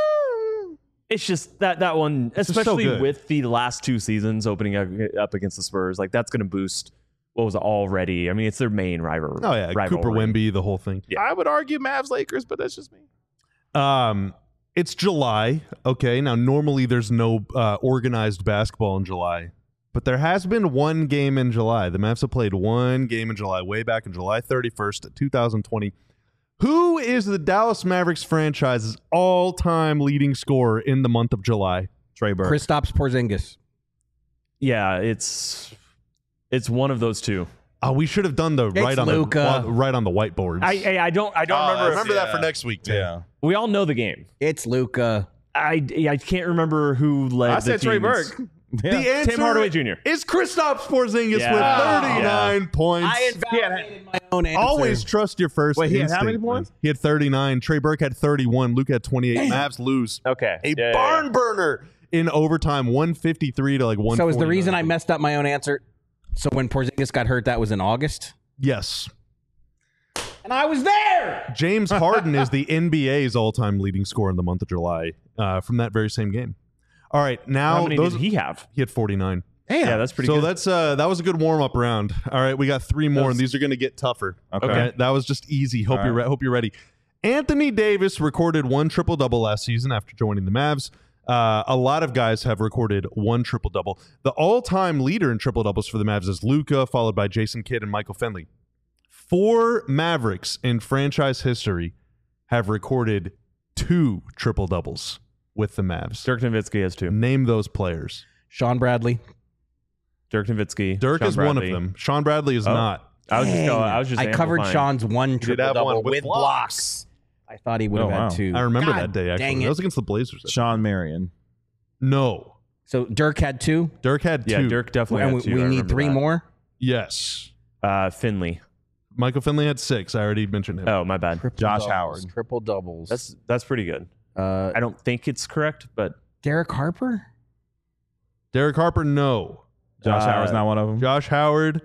It's just that that one, It's just so especially good. with the last two seasons opening up, up against the Spurs, like that's going to boost what was already. I mean, it's their main rival. Oh yeah, rivalry. Cooper Wemby, the whole thing. Yeah. I would argue Mavs Lakers, but that's just me. Um, It's July. Okay. Now, normally there's no uh, organized basketball in July, but there has been one game in July. The Mavs have played one game in July, way back in July thirty-first, twenty twenty. Who is the Dallas Mavericks franchise's all-time leading scorer in the month of July? Trey Burke. Kristaps Porzingis. Yeah, it's it's one of those two. Oh, we should have done the It's right on Luka. the on- right on the whiteboards. I I, I don't I don't Oh, remember. remember that yeah. for next week, too. Yeah. We all know the game. It's Luka. I I can't remember who led. I the said Trey team. Burke. The Yeah. answer Tim Hardaway Junior is Kristaps Porzingis Yeah. with thirty-nine points. I invalidated my own answer. Always trust your first Wait, he had how instinct, many man. points? He had thirty-nine. Trey Burke had thirty-one. Luke had twenty-eight. Mavs lose. Okay, A Yeah, yeah, barn yeah. burner in overtime, one fifty-three to like one. So is the reason I messed up my own answer? So when Porzingis got hurt, that was in August, Yes. and I was there. James Harden is the N B A's all-time leading scorer in the month of July uh, from that very same game. All right, now How many those did he have? he had forty-nine. Yeah, that's pretty so good. that's uh that was a good warm-up round. All right, we got three more, That was- and these are going to get tougher. Okay. That was just easy. Hope All you're right. re- hope you're ready. Anthony Davis recorded one triple double last season after joining the Mavs. Uh, a lot of guys have recorded one triple double. The all-time leader in triple doubles for the Mavs is Luka, followed by Jason Kidd and Michael Finley. Four Mavericks in franchise history have recorded two triple doubles with the Mavs. Dirk Nowitzki has two. Name those players. Sean Bradley. Dirk Nowitzki. Dirk Sean is one of Bradley. them. Sean Bradley is Oh. not. I was just Dang. going. I was just. I covered amplifying. Sean's one did triple have double one with with blocks. I thought he would have Oh, had wow. two. I remember God that day, actually. dang That it. was against the Blazers. Sean Marion. No. So Dirk had two, Dirk had two. Yeah, Dirk definitely. and had we, two. we I need remember three that. more. Yes. Uh, Finley. Michael Finley had six. I already mentioned him. Oh, my bad. Josh Howard. triple doubles. That's that's pretty good. uh, I don't think it's correct, but Derek Harper. Derek Harper, no. Josh Uh, Howard's not one of them. Josh Howard,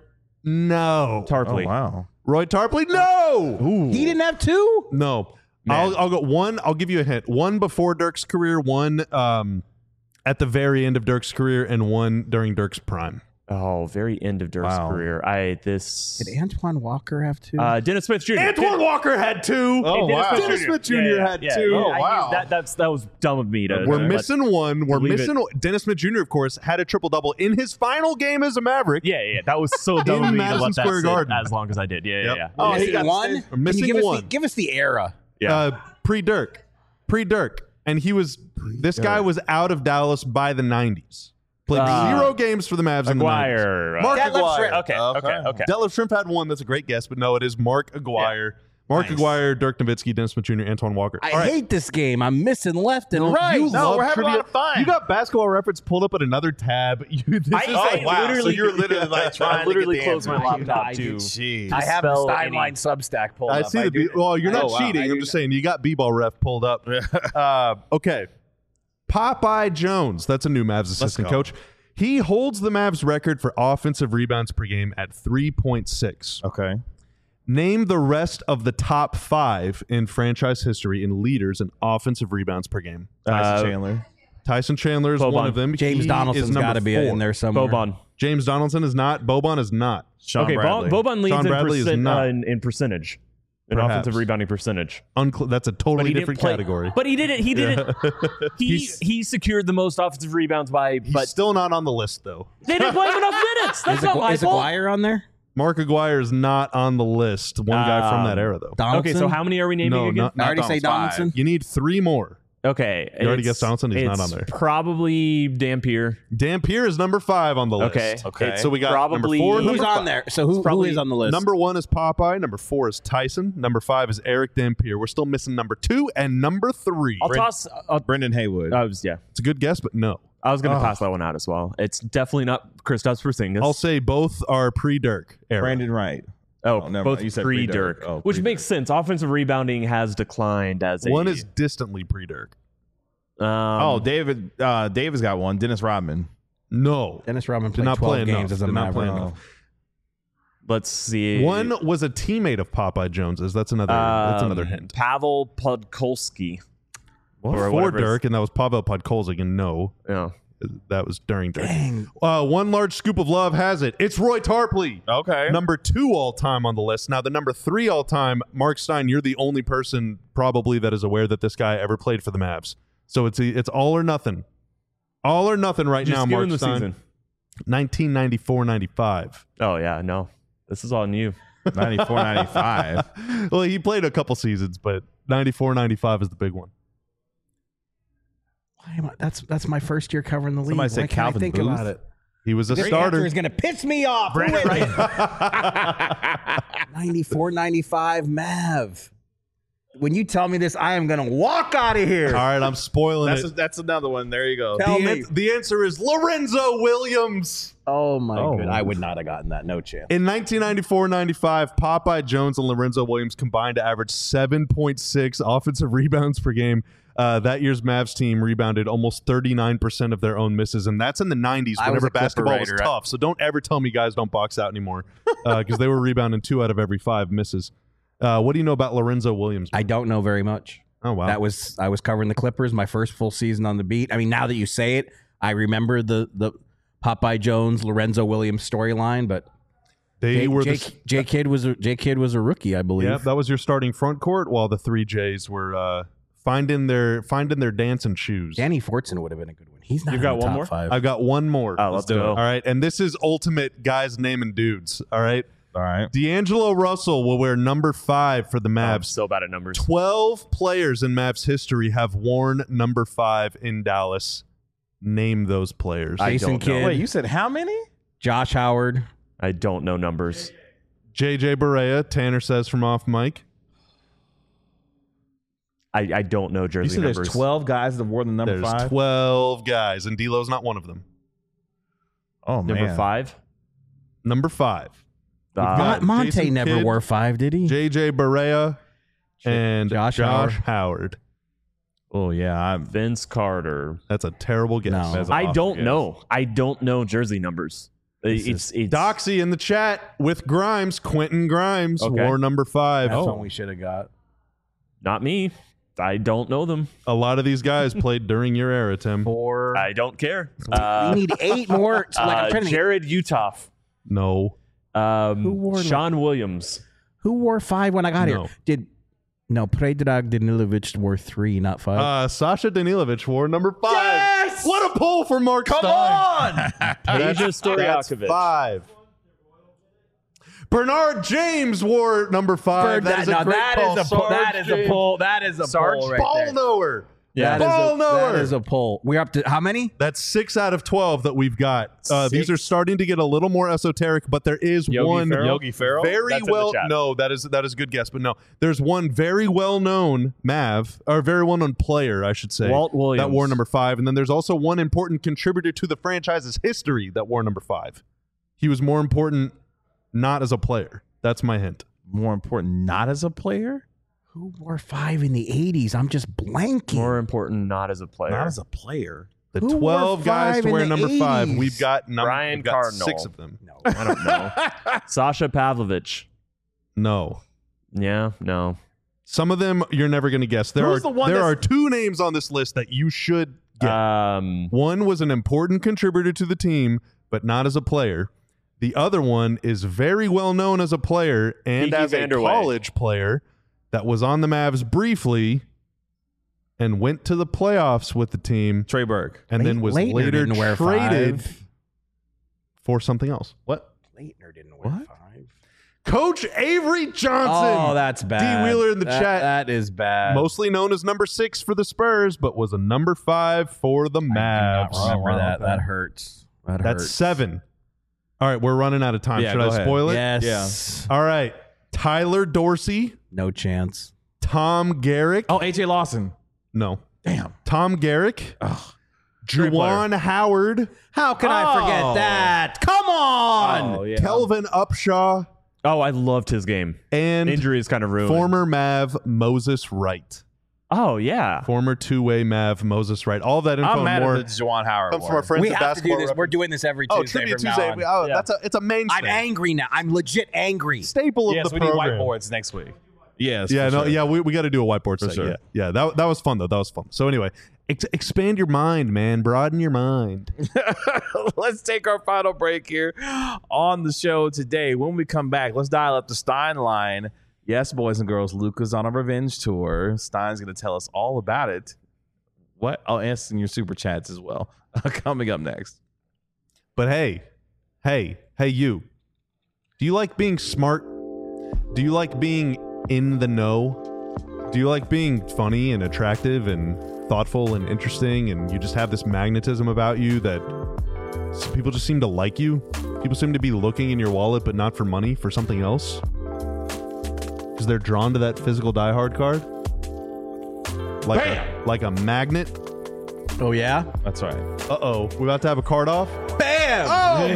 no. Tarpley. Oh, wow. Roy Tarpley, no. Ooh. He didn't have two. No. Man. I'll, I'll go one. I'll give you a hint. One before Dirk's career, one um, at the very end of Dirk's career, and one during Dirk's prime. Oh, very end of Dirk's Wow. career. I this. Did Antoine Walker have two? Uh, Dennis Smith Junior Antoine Walker had two. Oh, Dennis wow. Smith Dennis Junior Smith Junior Yeah, yeah, had yeah, two. yeah. Oh, I- wow. That that's that was dumb of me to. We're to let- missing one. We're leave missing Dennis Smith Junior, of course, had a triple double in his final game as a Maverick. Yeah, yeah, that was so dumb In of me to Madison let that Square sit Garden. as long as I did. Yeah, Yep. yeah, yeah. oh, he he got one. stayed- We're Can missing you give one. Us the, give us the era. yeah. Uh, pre Dirk, pre Dirk, and he was. This guy was out of Dallas by the nineties. Played Uh, zero games for the Mavs in the nineties. Aguirre. Mark Detlef Aguirre. Shrimp. Okay, okay, okay. Detlef Shrimp had one. That's a great guess, but no, it is Mark Aguirre. Mark Nice. Aguirre, Dirk Nowitzki, Dennis Smith Junior, Antoine Walker. I All right. hate this game. I'm missing left and No, right. You No, love we're having a trivia. lot of fun. You got Basketball Reference pulled up at another tab. You, this I- is I like, wow. literally- So you're literally like trying I literally to get the closed my answer. laptop I to. do. Jeez. I have the spell Steinline any- Substack pulled I up. see the. do- B- well, you're not Oh, wow. cheating. I I'm do just saying you got B-ball ref pulled up. uh, okay. Popeye Jones. That's a new Mavs assistant go. coach. He holds the Mavs record for offensive rebounds per game at three point six. Okay. Name the rest of the top five in franchise history in leaders in offensive rebounds per game. Tyson Uh, Chandler. Tyson Chandler is Boban. one of them. James He is Donaldson's number got to be four. in there somewhere. Boban. James Donaldson is not. Boban is not. Sean Okay, Bradley. Bo- Boban leads Sean in, Bradley is percent, not. uh, in, in percentage, in Perhaps. offensive rebounding percentage. Uncl- that's a totally he didn't different play- category. But he did it. He did it. He He's- he secured the most offensive rebounds by. He's But still not on the list, though. they didn't play him enough minutes. That's Is, not Agu- my is fault. Aguirre on there? Mark Aguirre is not on the list. One guy from Um, that era, though. Donaldson? Okay, so how many are we naming No, again? not- I already say Donaldson. Donaldson. You need three more. Okay, You already it's- guessed Donaldson? He's not it's on there. Probably Dampier. Dampier is number five on the list. Okay, Okay. It's So we got probably number four, Who's number on five. there? So who, who probably is on the list? Number one is Popeye. Number four is Tyson. Number five is Eric Dampier. We're still missing number two and number three. I'll toss. Uh, Brendan Haywood. I was yeah. It's a good guess, but no. I was going to Oh. toss that one out as well. It's definitely not Kristaps Porzingis. I'll say both are pre-Dirk era. Brandon Wright. oh, oh, never both mind. You said pre-Dirk, pre-Dirk. Oh, which pre-Dirk. makes sense. Offensive rebounding has declined as a One is distantly pre-Dirk. Um, Oh, David. Uh, David's got one. Dennis Rodman. No. Dennis Rodman Did played not play twelve games enough. as a Did not play Maverick. enough. let's see. One was a teammate of Popeye Jones's. That's another. that's Um, another hint. Pavel Podkolski. Or For whatever his- Dirk, and that was Pavel Podkolzig, and no. Yeah. That was during Dirk. Dang. Uh, one large scoop of love has it. It's Roy Tarpley. Okay. Number two all time on the list. Now, the number three all time, Mark Stein, you're the only person probably that is aware that this guy ever played for the Mavs. So it's it's all or nothing. All or nothing right Just now, give Mark him the Stein. season. nineteen ninety-four ninety-five. Oh yeah, no, this is on you. ninety-four ninety-five. Well, he played a couple seasons, but ninety-four ninety-five is the big one. Why am I, that's that's my first year covering the league. Somebody Why said can't Calvin I think Booth? about it? He was a This starter. answer is going to piss me off. Who Brandon is it? ninety-four ninety-five Mav. When you tell me this, I am going to walk out of here. All right, I'm spoiling That's it. that's another one. There you go. Tell the, me. an- the answer is Lorenzo Williams. Oh, my Oh. god. I would not have gotten that. No chance. In nineteen ninety-four ninety-five, Popeye Jones and Lorenzo Williams combined to average seven point six offensive rebounds per game. Uh, that year's Mavs team rebounded almost thirty-nine percent of their own misses, and that's in the nineties I was whenever a Clipper basketball was writer. tough. So don't ever tell me guys don't box out anymore because they were rebounding two out of every five misses. Uh, what do you know about Lorenzo Williams? I don't know very much. Oh, wow. That was I was covering the Clippers, my first full season on the beat. I mean, now that you say it, I remember the the Popeye Jones, Lorenzo Williams storyline, but they J, were J, the J Kid was a J Kid was a rookie, I believe. yeah, that was your starting front court while the three J's were uh, finding their finding their dancing shoes. Danny Fortson would have been a good one. He's not You in got the one top more? five. I've got one more. Oh, let's do go. it. All right, and this is ultimate guys naming dudes. All right, All right. D'Angelo Russell will wear number five for the I'm Mavs. so bad at numbers. Twelve players in Mavs history have worn number five in Dallas. Name those players. I Jason don't know. Kidd, Wait, you said how many? Josh Howard. I don't know numbers. J J Barea, Tanner says from off mic. I, I don't know You jersey said numbers. there's twelve guys that wore the number There's five. twelve guys, and D'Lo's not one of them. Oh man. Number five. Number five. Uh, got Mon- Monte Jason never Kidd, wore five, did he? J J Barea and Josh Josh, Howard. Howard. Oh yeah. I'm, Vince Carter. That's a terrible guess. No. That's an I awful don't guess. know. I don't know jersey numbers. This It's it's Doxy in the chat with Grimes. Quentin Grimes Okay. wore number five. That's Oh. one we should have got. not me. I don't know them. A lot of these guys played during your era, Tim. Four. I don't care. Uh, we need eight more. So, like, I'm uh, trying to think, Jared Utoff. No. Um, Who wore Sean Williams. who wore five when I got No. here? Did no Predrag Danilovic wore three, not five. Uh, Sasha Danilovic wore number five. Yes! What a pull for Mark Come Stein. on! Peja That's Stojakovic. five. Bernard James wore number five. Bird, that is a now great that call. is a pull. Sarge That is a James. pull. That is a Sarge pull right Ball there. knower. Yeah. That is Ball a, knower. that is a pull. We're up to how many? That's six out of twelve that we've got. Uh, these Six. are starting to get a little more esoteric, but there is Yogi one Ferrell? Yogi Ferrell. very That's in the well. chat. No, that is that is a good guess, but no, there's one very well known Mav or very well known player, I should say, Walt Williams. that wore number five, and then there's also one important contributor to the franchise's history that wore number five. He was more important not as a player. That's my hint. More important, not as a player, Who wore five in the eighties? I'm just blanking. More important, not as a player. not as a player. The Who wore twelve guys five to in wear the number five. eighties? We've got num- Brian we've got Cardinal. six of them. No. I don't know. Sasha Pavlovich. No. Yeah, no. Some of them you're never going to guess. There Who's are the one there that's- are two names on this list that you should get. Um, One was an important contributor to the team, but not as a player. The other one is very well known as a player and Kiki as a Vanderway. college player that was on the Mavs briefly and went to the playoffs with the team Trey Burke. and then Late- was Leitner later didn't wear traded five. for something else. What? Leitner didn't wear What? five. Coach Avery Johnson. Oh, that's bad. D. Wheeler in the That- chat. That is bad. Mostly known as number six for the Spurs, but was a number five for the I do not Mavs. remember Oh, wow, that. okay. That hurts. That That's hurts. seven. All right, we're running out of time. Yeah, Should go I ahead. spoil it? Yes. All right. Tyler Dorsey, No chance. Tom Garrick. Oh, A J Lawson. No. Damn. Tom Garrick. Ugh. Great Juwan Howard. How can I forget Oh. that? Come on. Oh, yeah. Kelvin Upshaw. oh, I loved his game. And Injury is kind of ruined. former Mav Moses Wright. Oh, yeah. Former two-way Mav Moses Wright. All that info I'm and mad more at the Juwan Howard comes one. from our friends We at have to do Basketball this. Reference. We're doing this every Oh, Tuesday Tribute from Tuesday. now on. Oh, Yeah. that's a it's a mainstay. I'm angry now. I'm legit angry. Staple of Yes, the we need program. whiteboards next week. Yes. Yeah, for no, sure. yeah, we, we got to do a whiteboard set. sure. Yeah, yeah, that that was fun though. That was fun. So anyway, ex- expand your mind, man. Broaden your mind. Let's take our final break here on the show today. When we come back, let's dial up the Stein line. Yes, boys and girls, Luca's on a revenge tour. Stein's going to tell us all about it. What? I'll answer in your super chats as well. Coming up next. But hey, hey, hey, you. Do you like being smart? Do you like being in the know? Do you like being funny and attractive and thoughtful and interesting, and you just have this magnetism about you that s- people just seem to like you? People seem to be looking in your wallet, but not for money, for something else? Because they're drawn to that physical Die Hard card? Like a, like a magnet? Oh, yeah? That's right. Uh-oh. We're about to have a card off? Bam! Oh, my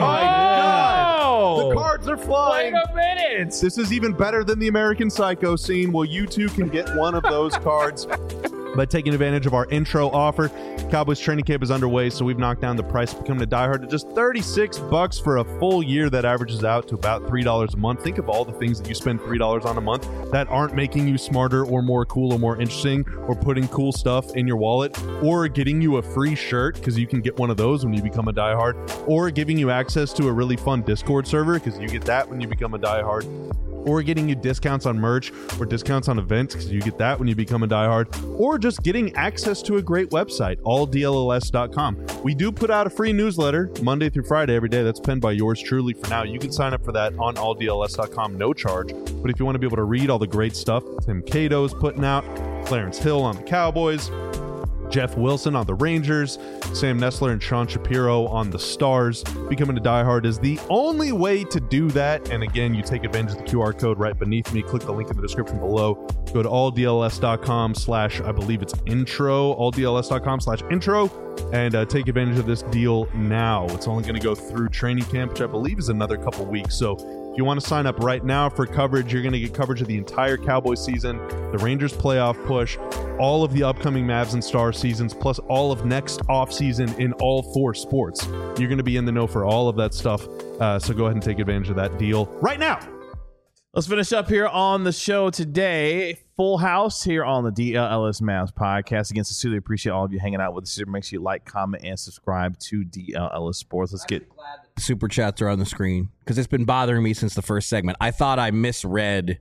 God! The cards are Wait flying! a minute. This is even better than the American Psycho scene. Well, you too can get one of those cards by taking advantage of our intro offer. Cowboys training camp is underway, so we've knocked down the price of becoming a diehard to just thirty-six bucks for a full year. That averages out to about three dollars a month. Think of all the things that you spend three dollars on a month that aren't making you smarter or more cool or more interesting, or putting cool stuff in your wallet, or getting you a free shirt because you can get one of those when you become a diehard, or giving you access to a really fun Discord server because you get that when you become a diehard, or getting you discounts on merch or discounts on events because you get that when you become a diehard, or just getting access to a great website, all D L L S dot com. We do put out a free newsletter Monday through Friday every day. That's penned by yours truly. For now, you can sign up for that on all D L S dot com, no charge. But if you want to be able to read all the great stuff Tim Cato is putting out, Clarence Hill on the Cowboys, Jeff Wilson on the Rangers, Sam Nestler and Sean Shapiro on the Stars. Becoming a diehard is the only way to do that. And again, you take advantage of the Q R code right beneath me. Click the link in the description below. Go to all D L S dot com slash, I believe it's intro, all D L S dot com slash intro, and uh, take advantage of this deal now. It's only going to go through training camp, which I believe is another couple weeks. So if you want to sign up right now for coverage, you're going to get coverage of the entire Cowboys season, the Rangers playoff push, all of the upcoming Mavs and Stars seasons, plus all of next offseason in all four sports. You're going to be in the know for all of that stuff. Uh, so go ahead and take advantage of that deal right now. Let's finish up here on the show today. Full house here on the D L L S Mavs podcast. Again, sincerely appreciate all of you hanging out with us. Make sure you like, comment, and subscribe to D L L S Sports. Let's get Super chats are on the screen because it's been bothering me since the first segment. I thought I misread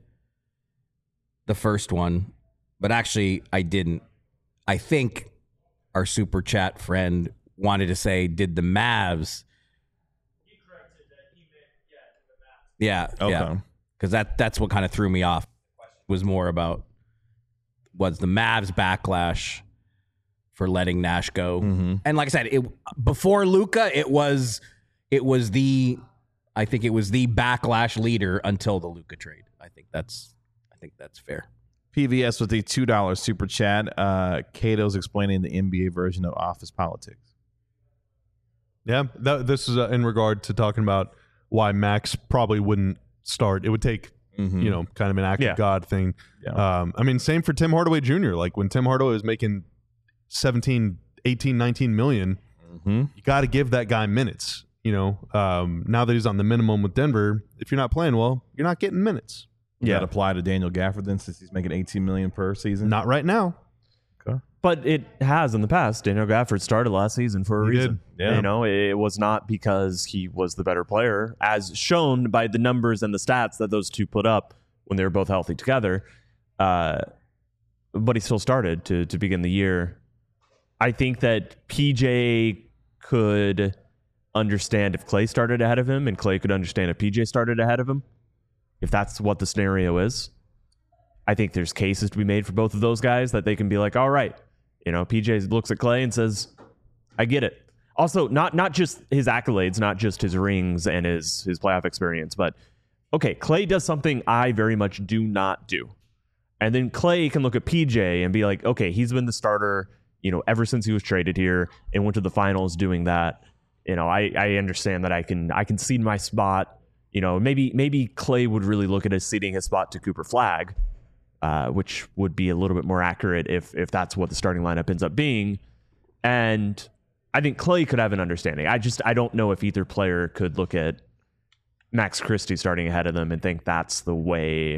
the first one, but actually I didn't. I think our super chat friend wanted to say, did the Mavs? He corrected that he meant, yeah, the Mavs. Yeah, okay. yeah. Because that, that's what kind of threw me off. Was more about was the Mavs backlash for letting Nash go. Mm-hmm. And like I said, it before Luka, it was it was the I think it was the backlash leader until the Luka trade. I think that's I think that's fair. P V S with the two dollars super chat. Uh, Cato's explaining the N B A version of office politics. Yeah, that, this is uh, in regard to talking about why Max probably wouldn't start. It would take, Mm-hmm. you know, kind of an act Yeah. of God thing. Yeah. Um, I mean, same for Tim Hardaway Junior Like when Tim Hardaway was making seventeen, eighteen, nineteen million, Mm-hmm. you got to give that guy minutes. You know, um, now that he's on the minimum with Denver, if you're not playing well, you're not getting minutes. Yeah. Yeah. That apply to Daniel Gafford then, since he's making eighteen million per season. Not right now. But it has in the past. Daniel Gafford started last season for a He reason. did, yeah. You know, it was not because he was the better player, as shown by the numbers and the stats that those two put up when they were both healthy together. Uh, but he still started to to begin the year. I think that P J could understand if Clay started ahead of him, and Clay could understand if P J started ahead of him, if that's what the scenario is. I think there's cases to be made for both of those guys that they can be like, all right, you know, P J looks at Clay and says, I get it. Also, not not just his accolades, not just his rings and his his playoff experience, but okay, Clay does something I very much do not do. And then Clay can look at P J and be like, okay, he's been the starter, you know, ever since he was traded here and went to the finals doing that. You know, I, I understand that I can I can cede my spot. You know, maybe maybe Clay would really look at his ceding his spot to Cooper Flagg, uh, which would be a little bit more accurate if if that's what the starting lineup ends up being. And I think Clay could have an understanding. I just I don't know if either player could look at Max Christie starting ahead of them and think that's the way,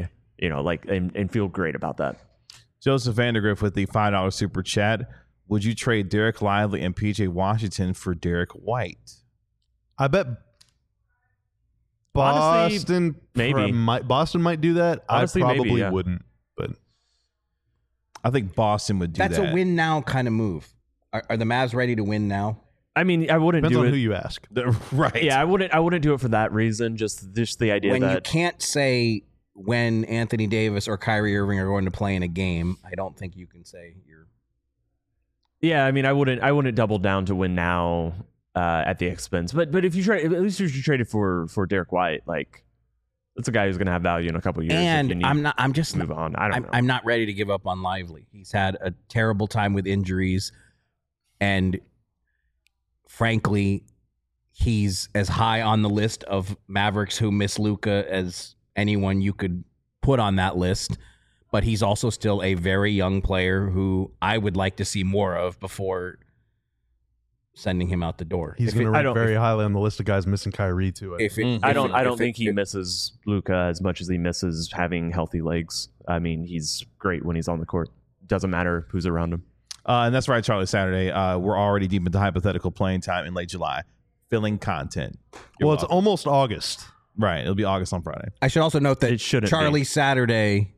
you know, like and, and feel great about that. Joseph Vandergriff with the five dollar super chat. Would you trade Derek Lively and P J Washington for Derek White? I bet Honestly, Boston maybe. pr- might Boston might do that. Honestly, I maybe, probably yeah. wouldn't, but I think Boston would do That's that. a win now kind of move. Are, are the Mavs ready to win now? I mean, I wouldn't depends do on it. who you ask. right. Yeah, I wouldn't. I wouldn't do it for that reason. Just, just the idea When you that can't say when Anthony Davis or Kyrie Irving are going to play in a game, I don't think you can say you're. Yeah, I mean, I wouldn't. I wouldn't double down to win now uh, at the expense. But, but if you trade, at least if you traded for for Derek White, like that's a guy who's going to have value in a couple of years. if you And need I'm not. I'm just. to move on. I don't I'm, know. I'm not ready to give up on Lively. He's had a terrible time with injuries, and frankly, he's as high on the list of Mavericks who miss Luka as anyone you could put on that list. But he's also still a very young player who I would like to see more of before sending him out the door. He's If going to it- I rank don't- very highly on the list of guys missing Kyrie too. I If it, Mm. if I don't. it- I if don't it- think he if- misses Luka as much as he misses having healthy legs. I mean, he's great when he's on the court. Doesn't matter who's around him. Uh, and that's right, Charlie Saturday. Uh, we're already deep into hypothetical playing time in late July. Filling content. You're well, it's welcome. almost August. right. It'll be August on Friday. I should also note that It shouldn't Charlie be. Saturday,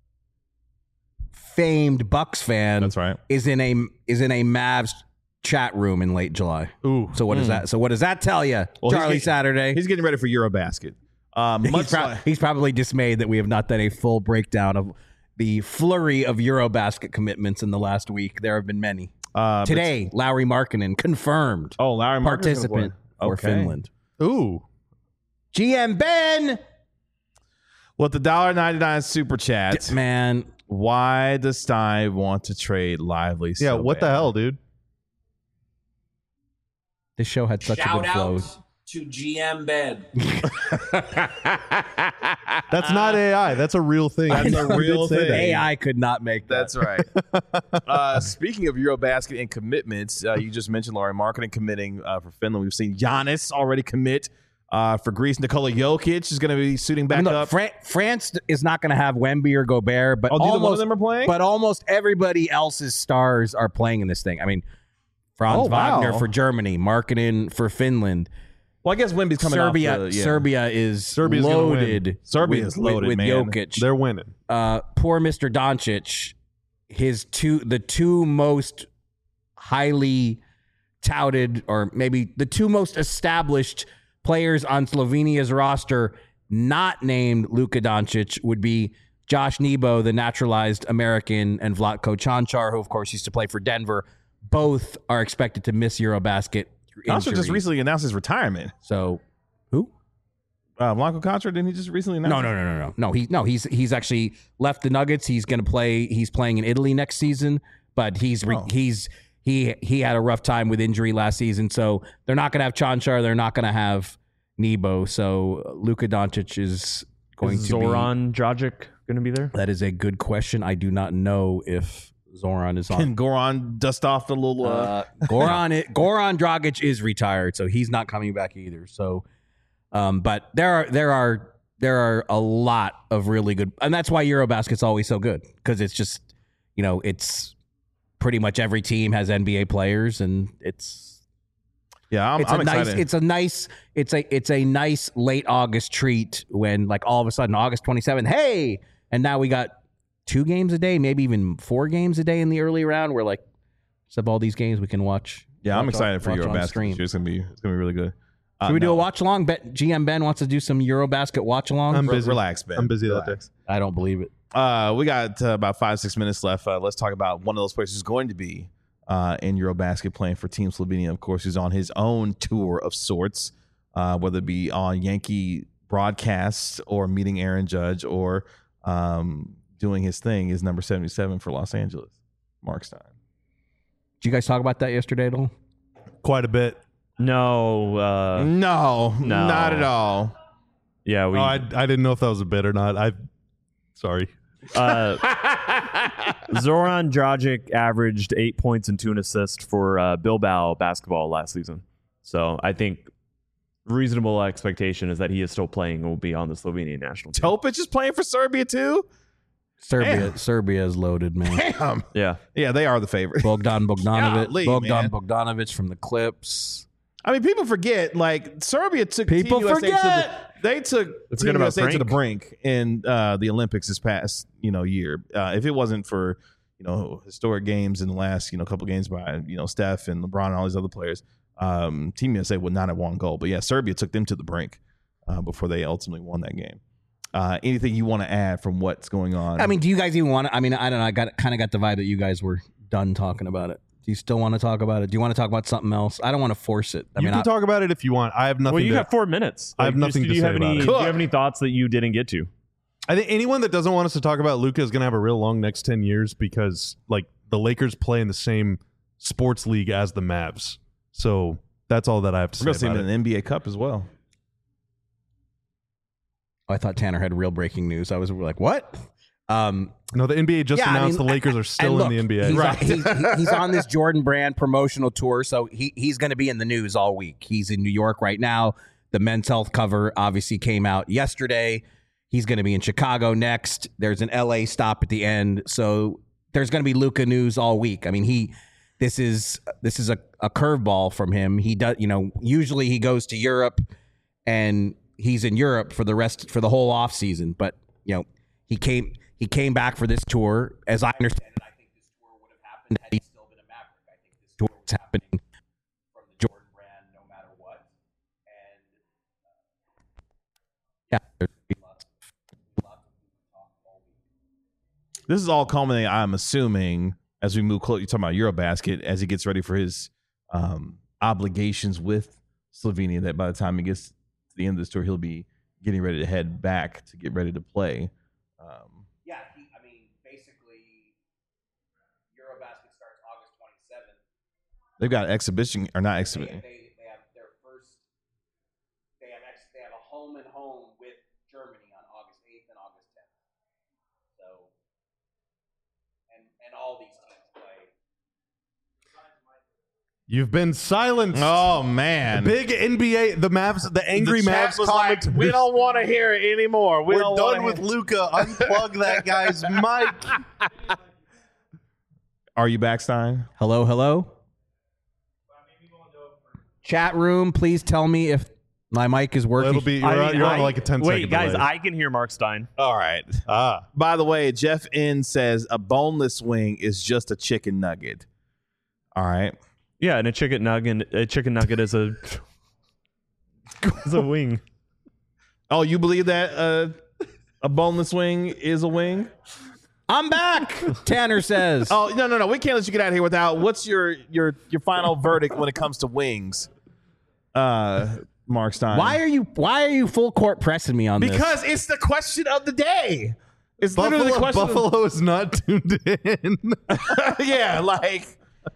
famed Bucks fan, That's right. is in a is in a Mavs chat room in late July. Ooh, So what does that? So what does that tell you, Well, he's Charlie getting- Saturday? He's getting ready for Eurobasket. Um, He's, much pro- like- he's probably dismayed that we have not done a full breakdown of the flurry of Eurobasket commitments in the last week. There have been many. uh, Today, Lowry Markkinen confirmed but- oh, Larry Markkanen participant for Okay. Finland. ooh. G M Ben, With the one dollar ninety-nine super chat, man, why does Stein want to trade Lively? Yeah, so what the bad? hell, dude? this show had such a Shout good flow. out to G M Ben. That's not A I. That's a real thing. That's You a did real say thing. that. A I could not make that. That's right. uh, speaking of Eurobasket and commitments, uh, you just mentioned Laurie Marketing committing uh, for Finland. We've seen Giannis already commit uh, for Greece. Nikola Jokic is going to be suiting back I mean, look, up. Fran- France is not going to have Wemby or Gobert, but oh, neither one of almost, them are playing? but almost everybody else's stars are playing in this thing. I mean, Franz Oh, wow. Wagner for Germany, Markkinen for Finland. well, I guess Wemby's coming Serbia, off the, yeah. Serbia is Serbia's gonna win. loaded. Serbia with, is loaded, with, with man. Jokic. They're winning. Uh, poor Mister Doncic, his two, the two most highly touted, or maybe the two most established players on Slovenia's roster, not named Luka Doncic, would be Josh Nebo, the naturalized American, and Vlatko Čančar, who of course used to play for Denver. Both are expected to miss Eurobasket through Contra injury. just recently announced his retirement. So, who? Uh, Blanco Contra, didn't he just recently announce? No, no, no, no, no, no. He no, he's he's actually left the Nuggets. He's going to play. He's playing in Italy next season, but he's re, Oh. he's he he had a rough time with injury last season, so they're not going to have Čančar. They're not going to have Nebo. So Luka Doncic is going Is to Zoran Dragic going to be there? be. That is a good question. I do not know if Zoran is on. Can Goran dust off the little... Uh, Uh, Goran it, Goran Dragic is retired, so he's not coming back either. So, um, but there are there are there are a lot of really good, and that's why Eurobasket's always so good, because it's just, you know, it's pretty much every team has N B A players, and it's yeah, I'm, it's I'm a nice excited. it's a nice it's a it's a nice late August treat when, like, all of a sudden August twenty-seventh, hey, and now we got two games a day, maybe even four games a day in the early round. We're like, sub all these games we can watch. yeah, I'm watch excited on- for watch on Eurobasket. stream. This year. It's gonna be it's gonna be really good. Uh, Should we do no. a watch along? Bet G M Ben wants to do some Eurobasket watch along. I'm Re- busy. Relax, Ben. I'm busy that Relax. I don't believe it. Uh, we got uh, about five, six minutes left. Uh, let's talk about one of those players who's going to be uh, in Eurobasket playing for Team Slovenia, of course, who's on his own tour of sorts, uh, whether it be on Yankee broadcasts or meeting Aaron Judge or um, doing his thing, is number seventy-seven for Los Angeles, Mark Stein. Did you guys talk about that yesterday at all? Quite a bit. No. Uh, No, No. not at all. yeah, we. Oh, I, I didn't know if that was a bit or not. I, sorry. uh, Zoran Dragic averaged eight points and two and assists for uh, Bilbao basketball last season. So I think reasonable expectation is that he is still playing and will be on the Slovenian national team. Topic is playing for Serbia too. Serbia, Damn. Serbia is loaded, man. Damn. Yeah. Yeah, they are the favorite. Bogdan Bogdanovic, Golly, Bogdan man. Bogdanovic from the Clips. I mean, people forget. Like Serbia took People Team U S A forget. To the, they took Let's Team forget U about S A to the Frank. brink in uh, the Olympics this past you know year. Uh, if it wasn't for you know historic games in the last you know couple games by you know Steph and LeBron and all these other players, um, Team U S A would not have won gold. But yeah, Serbia took them to the brink uh, before they ultimately won that game. Uh, anything you want to add from what's going on? I mean, do you guys even want to? I mean, I don't know. I got kind of got the vibe that you guys were done talking about it. Do you still want to talk about it? Do you want to talk about something else? I don't want to force it. I you mean, can I, talk about it if you want. I have nothing. Well, you to, got four minutes. I have Like, nothing do to you say have about any, it. Do you have any thoughts that you didn't get to? I think anyone that doesn't want us to talk about Luka is going to have a real long next ten years because like the Lakers play in the same sports league as the Mavs. So that's all that I have to we're gonna say see him about in it. an N B A Cup as well. I thought Tanner had real breaking news. I was like, what? Um, No, the N B A just Yeah, I announced mean, the Lakers are and still look, in the N B A. He's, Right. he's, he's on this Jordan Brand promotional tour, so he he's going to be in the news all week. He's in New York right now. The Men's Health cover obviously came out yesterday. He's going to be in Chicago next. There's an L A stop at the end, so there's going to be Luka news all week. I mean, he this is this is a, a curveball from him. He does, you know, usually he goes to Europe and he's in Europe for the rest for the whole off season, but you know, he came he came back for this tour. As I understand it, I think this tour would have happened had he still been a Maverick. I think this tour was happening from the Jordan Brand no matter what. And uh, yeah, there's lots of, lots of talk all week. This is all culminating, I'm assuming, as we move close. You're talking about Eurobasket as he gets ready for his um, obligations with Slovenia. That by the time he gets to the end of this tour, he'll be getting ready to head back to get ready to play. Um, Yeah, he, I mean, basically, Eurobasket starts August twenty-seventh. they've got exhibition or not They, exhibition. they, they have their first. They have ex, they have a home and home with Germany on August eighth and August tenth. So, and and all these teams play. You've been silenced. Oh man, Big N B A, the Mavs, the angry The chat Mavs was like, commentators. we don't want to hear it anymore. We We're don't done wanna with hear- Luka. Unplug that guy's mic. Are you back, Stein? Hello, hello. Chat room, please tell me if my mic is working. It'll be you're, I on, mean, you're on I- like a ten Wait, second guys, delay. I can hear Mark Stein. All right. ah, By the way, Jeff N says a boneless wing is just a chicken nugget. All right. Yeah, and a chicken nugget, a chicken nugget is a is a wing. Oh, you believe that uh, a boneless wing is a wing? I'm back. Tanner says. Oh no no no! We can't let you get out of here without. What's your your your final verdict when it comes to wings, uh, Mark Stein? Why are you why are you full court pressing me on this? Because it's the question of the day. It's literally Buffalo, the question. of- Buffalo is not tuned in. yeah, like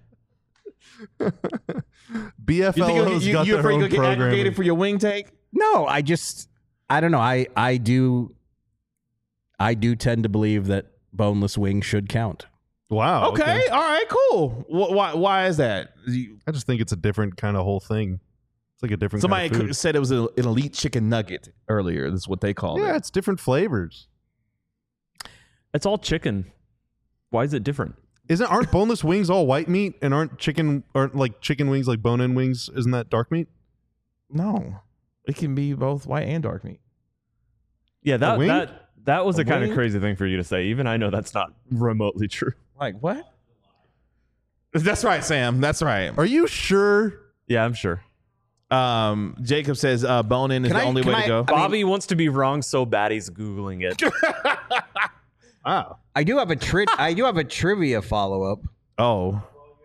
B F you think L you'll, O's you, got you're their afraid own you'll get programming. aggregated for your wing take? No, I just I don't know. I I do I do tend to believe that boneless wing should count. Wow. Okay, all right, cool. Wh- Why why is that? You- I just think it's a different kind of whole thing. It's like a different Somebody kind of food. said it was a, an elite chicken nugget earlier. That's what they called Yeah, it. it's different flavors. It's all chicken. Why is it different? Isn't aren't boneless wings all white meat and aren't chicken aren't like chicken wings like bone-in wings? Isn't that dark meat? No, it can be both white and dark meat. Yeah, that wing? that that was A a, kind wing? of crazy thing for you to say. Even I know that's not remotely true. Like what? That's right, Sam. That's right. Are you sure? Yeah, I'm sure. Um, Jacob says uh, bone in is Can the I- only can way I- to go. I mean- Bobby wants to be wrong so bad he's googling it. Wow. I do have a tri- I do have a trivia follow up. Oh,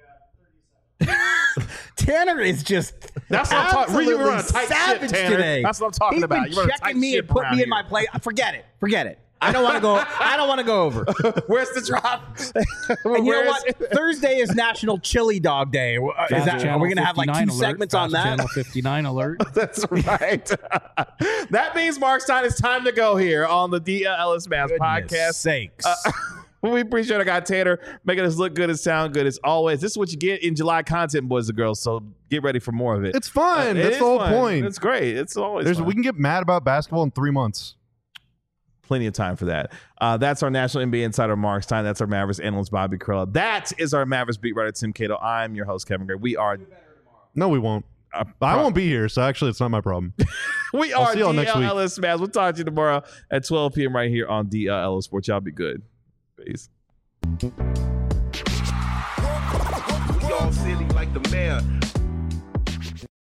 Tanner is just that's what I'm talking. absolutely You run a tight ship, savage Tanner. today. That's what I'm talking He's about. Been You run a checking tight me ship and put around me in my here. place. Forget it. Forget it. I don't want to go. I don't want to go over. Where's the drop? And you know Where what? is it? Thursday is National Chili Dog Day. Uh, Is that, are we going to have like two fifty-nine alert, segments on Fast that? Channel fifty-nine alert. That's right. That means Mark Stein, it's time to go here on the D L Ellis Mavs podcast. Sakes. We appreciate our guy Tanner making us look good and sound good as always. This is what you get in July content, boys and girls. So get ready for more of it. It's fun. Uh, it That's is the whole fun. point. It's great. It's always There's fun. we can get mad about basketball in three months. Plenty of time for that. Uh, that's our National N B A insider Mark Stein. That's our Mavericks analyst Bobby Krella. That is our Mavericks beat writer Tim Cato. I'm your host Kevin Gray. We are. No, we won't. Uh, I won't be here, so actually, it's not my problem. we I'll are see y'all next week. D L L S Mavs. We'll talk to you tomorrow at twelve p.m. right here on D L L S Sports. Y'all be good. Peace. We all silly like the mayor.